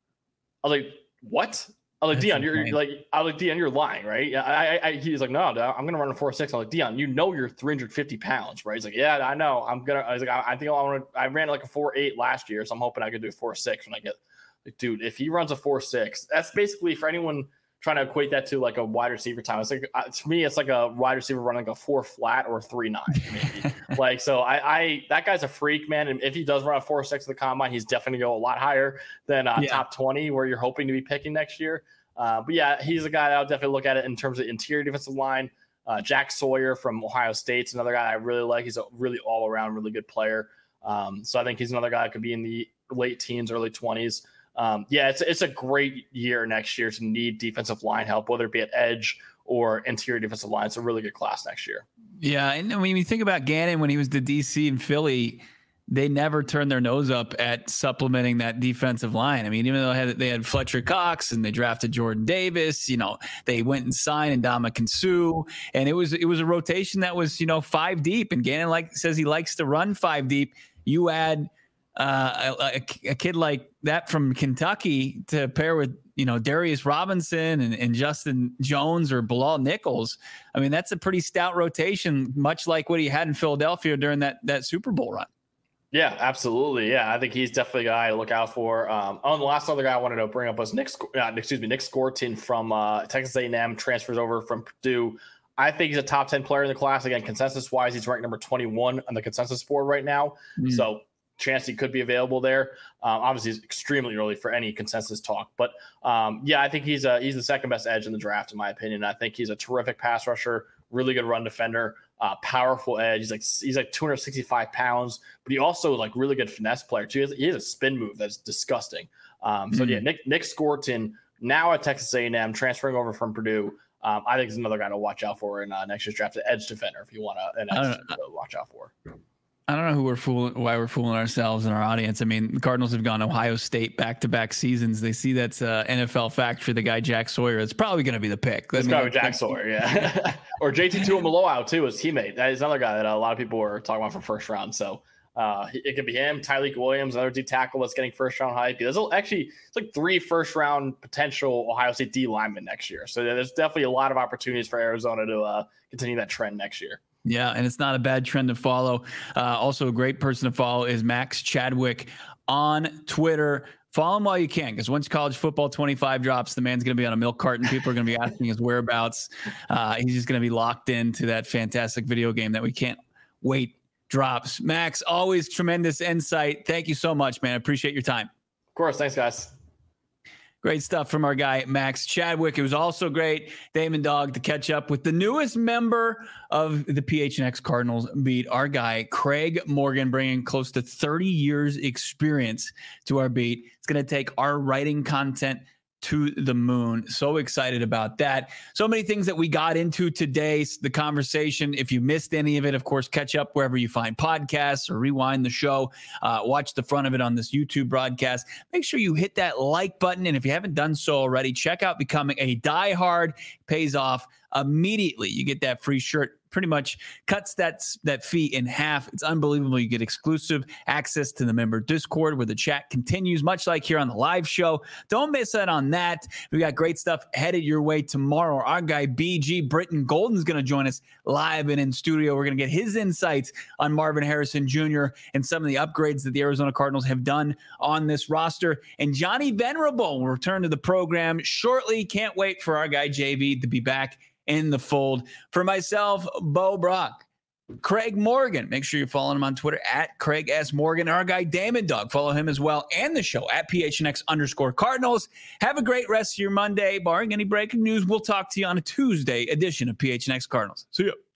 H: I was like, what? I was like, Dion, you're, you're like, I was like, Dion, you're lying, right? I, I, I he's like, no, no, I'm gonna run a four six. I'm like, Dion, you know you're three hundred fifty pounds, right? He's like, yeah, I know. I'm gonna. I was like, I, I think I want to. I ran like a four eight last year, so I'm hoping I could do a four six when I get. Like, dude, if he runs a four six, that's basically for anyone trying to equate that to like a wide receiver time. It's like uh, to me, it's like a wide receiver running like a four flat or a three nine, maybe. Like, so I, I, that guy's a freak, man. And if he does run a four six at the combine, he's definitely gonna go a lot higher than uh, yeah. top twenty, where you're hoping to be picking next year. Uh, but yeah, he's a guy that I'll definitely look at it in terms of interior defensive line. Uh, Jack Sawyer from Ohio State's another guy I really like. He's a really all around really good player. Um, so I think he's another guy that could be in the late teens, early twenties. Um, yeah, it's it's a great year next year to need defensive line help, whether it be at edge or interior defensive line. It's a really good class next year.
A: Yeah, and when you think about Gannon, when he was to D C and Philly, they never turned their nose up at supplementing that defensive line. I mean, even though they had, they had Fletcher Cox and they drafted Jordan Davis, you know, they went and signed Ndamukong Suh, and it was it was a rotation that was, you know, five deep. And Gannon like says he likes to run five deep. You add uh, a, a kid like that from Kentucky to pair with, you know, Darius Robinson and, and Justin Jones or Bilal Nichols. I mean, that's a pretty stout rotation, much like what he had in Philadelphia during that that Super Bowl run.
H: Yeah, absolutely. Yeah, I think he's definitely a guy to look out for. Um, oh, and the last other guy I wanted to bring up was Nick, uh, excuse me, Nick Scorton from uh, Texas A and M, transfers over from Purdue. I think he's a top ten player in the class. Again, consensus-wise, he's ranked number twenty-one on the consensus board right now. Mm. So chance he could be available there. Um, obviously, it's extremely early for any consensus talk. But, um, yeah, I think he's a, he's the second best edge in the draft, in my opinion. I think he's a terrific pass rusher, really good run defender. Uh, powerful edge. He's like he's like two hundred sixty-five pounds, but he also like really good finesse player too. He has, he has a spin move that's disgusting. Um, so mm-hmm. yeah, Nick Nick Scorton now at Texas A and M, transferring over from Purdue. Um, I think is another guy to watch out for in uh, next year's draft, the edge defender. If you want to, an edge to watch out for.
A: I don't know who we're fooling, why we're fooling ourselves and our audience. I mean, the Cardinals have gone Ohio State back-to-back seasons. They see that's uh, N F L factory. The guy Jack Sawyer. It's probably going to be the pick.
H: It's
A: I mean,
H: probably Jack Sawyer, yeah. Or J T Tuimoloau too, his teammate. That is another guy that a lot of people were talking about for first round. So uh, it could be him, Tyleik Williams, another D tackle that's getting first round hype. There's actually it's like three first round potential Ohio State D linemen next year. So there's definitely a lot of opportunities for Arizona to uh, continue that trend next year.
A: Yeah, and it's not a bad trend to follow. Uh, also, a great person to follow is Max Chadwick on Twitter. Follow him while you can, because once College Football twenty-five drops, the man's going to be on a milk carton. People are going to be asking his whereabouts. Uh, he's just going to be locked into that fantastic video game that we can't wait drops. Max, always tremendous insight. Thank you so much, man. I appreciate your time.
H: Of course. Thanks, guys.
A: Great stuff from our guy, Max Chadwick. It was also great, Damon Dog, to catch up with the newest member of the P H N X Cardinals beat, our guy, Craig Morgan, bringing close to thirty years experience to our beat. It's going to take our writing content to the moon. So excited about that. So many things that we got into today, the conversation. If you missed any of it, of course, catch up wherever you find podcasts or rewind the show. Uh, watch the front of it on this YouTube broadcast. Make sure you hit that like button. And if you haven't done so already, check out Becoming a Diehard. Pays off immediately. You get that free shirt. Pretty much cuts that, that fee in half. It's unbelievable. You get exclusive access to the member Discord where the chat continues, much like here on the live show. Don't miss out on that. We got great stuff headed your way tomorrow. Our guy B G Britton Golden is going to join us live and in studio. We're going to get his insights on Marvin Harrison Junior and some of the upgrades that the Arizona Cardinals have done on this roster. And Johnny Venerable will return to the program shortly. Can't wait for our guy J V to be back in the fold. For myself, Bo Brock, Craig Morgan, make sure you're following him on Twitter at Craig S. Morgan. Our guy Damon Dog, follow him as well, and the show at P H N X underscore Cardinals. Have a great rest of your Monday. Barring any breaking news, we'll talk to you on a Tuesday edition of P H N X Cardinals. See ya.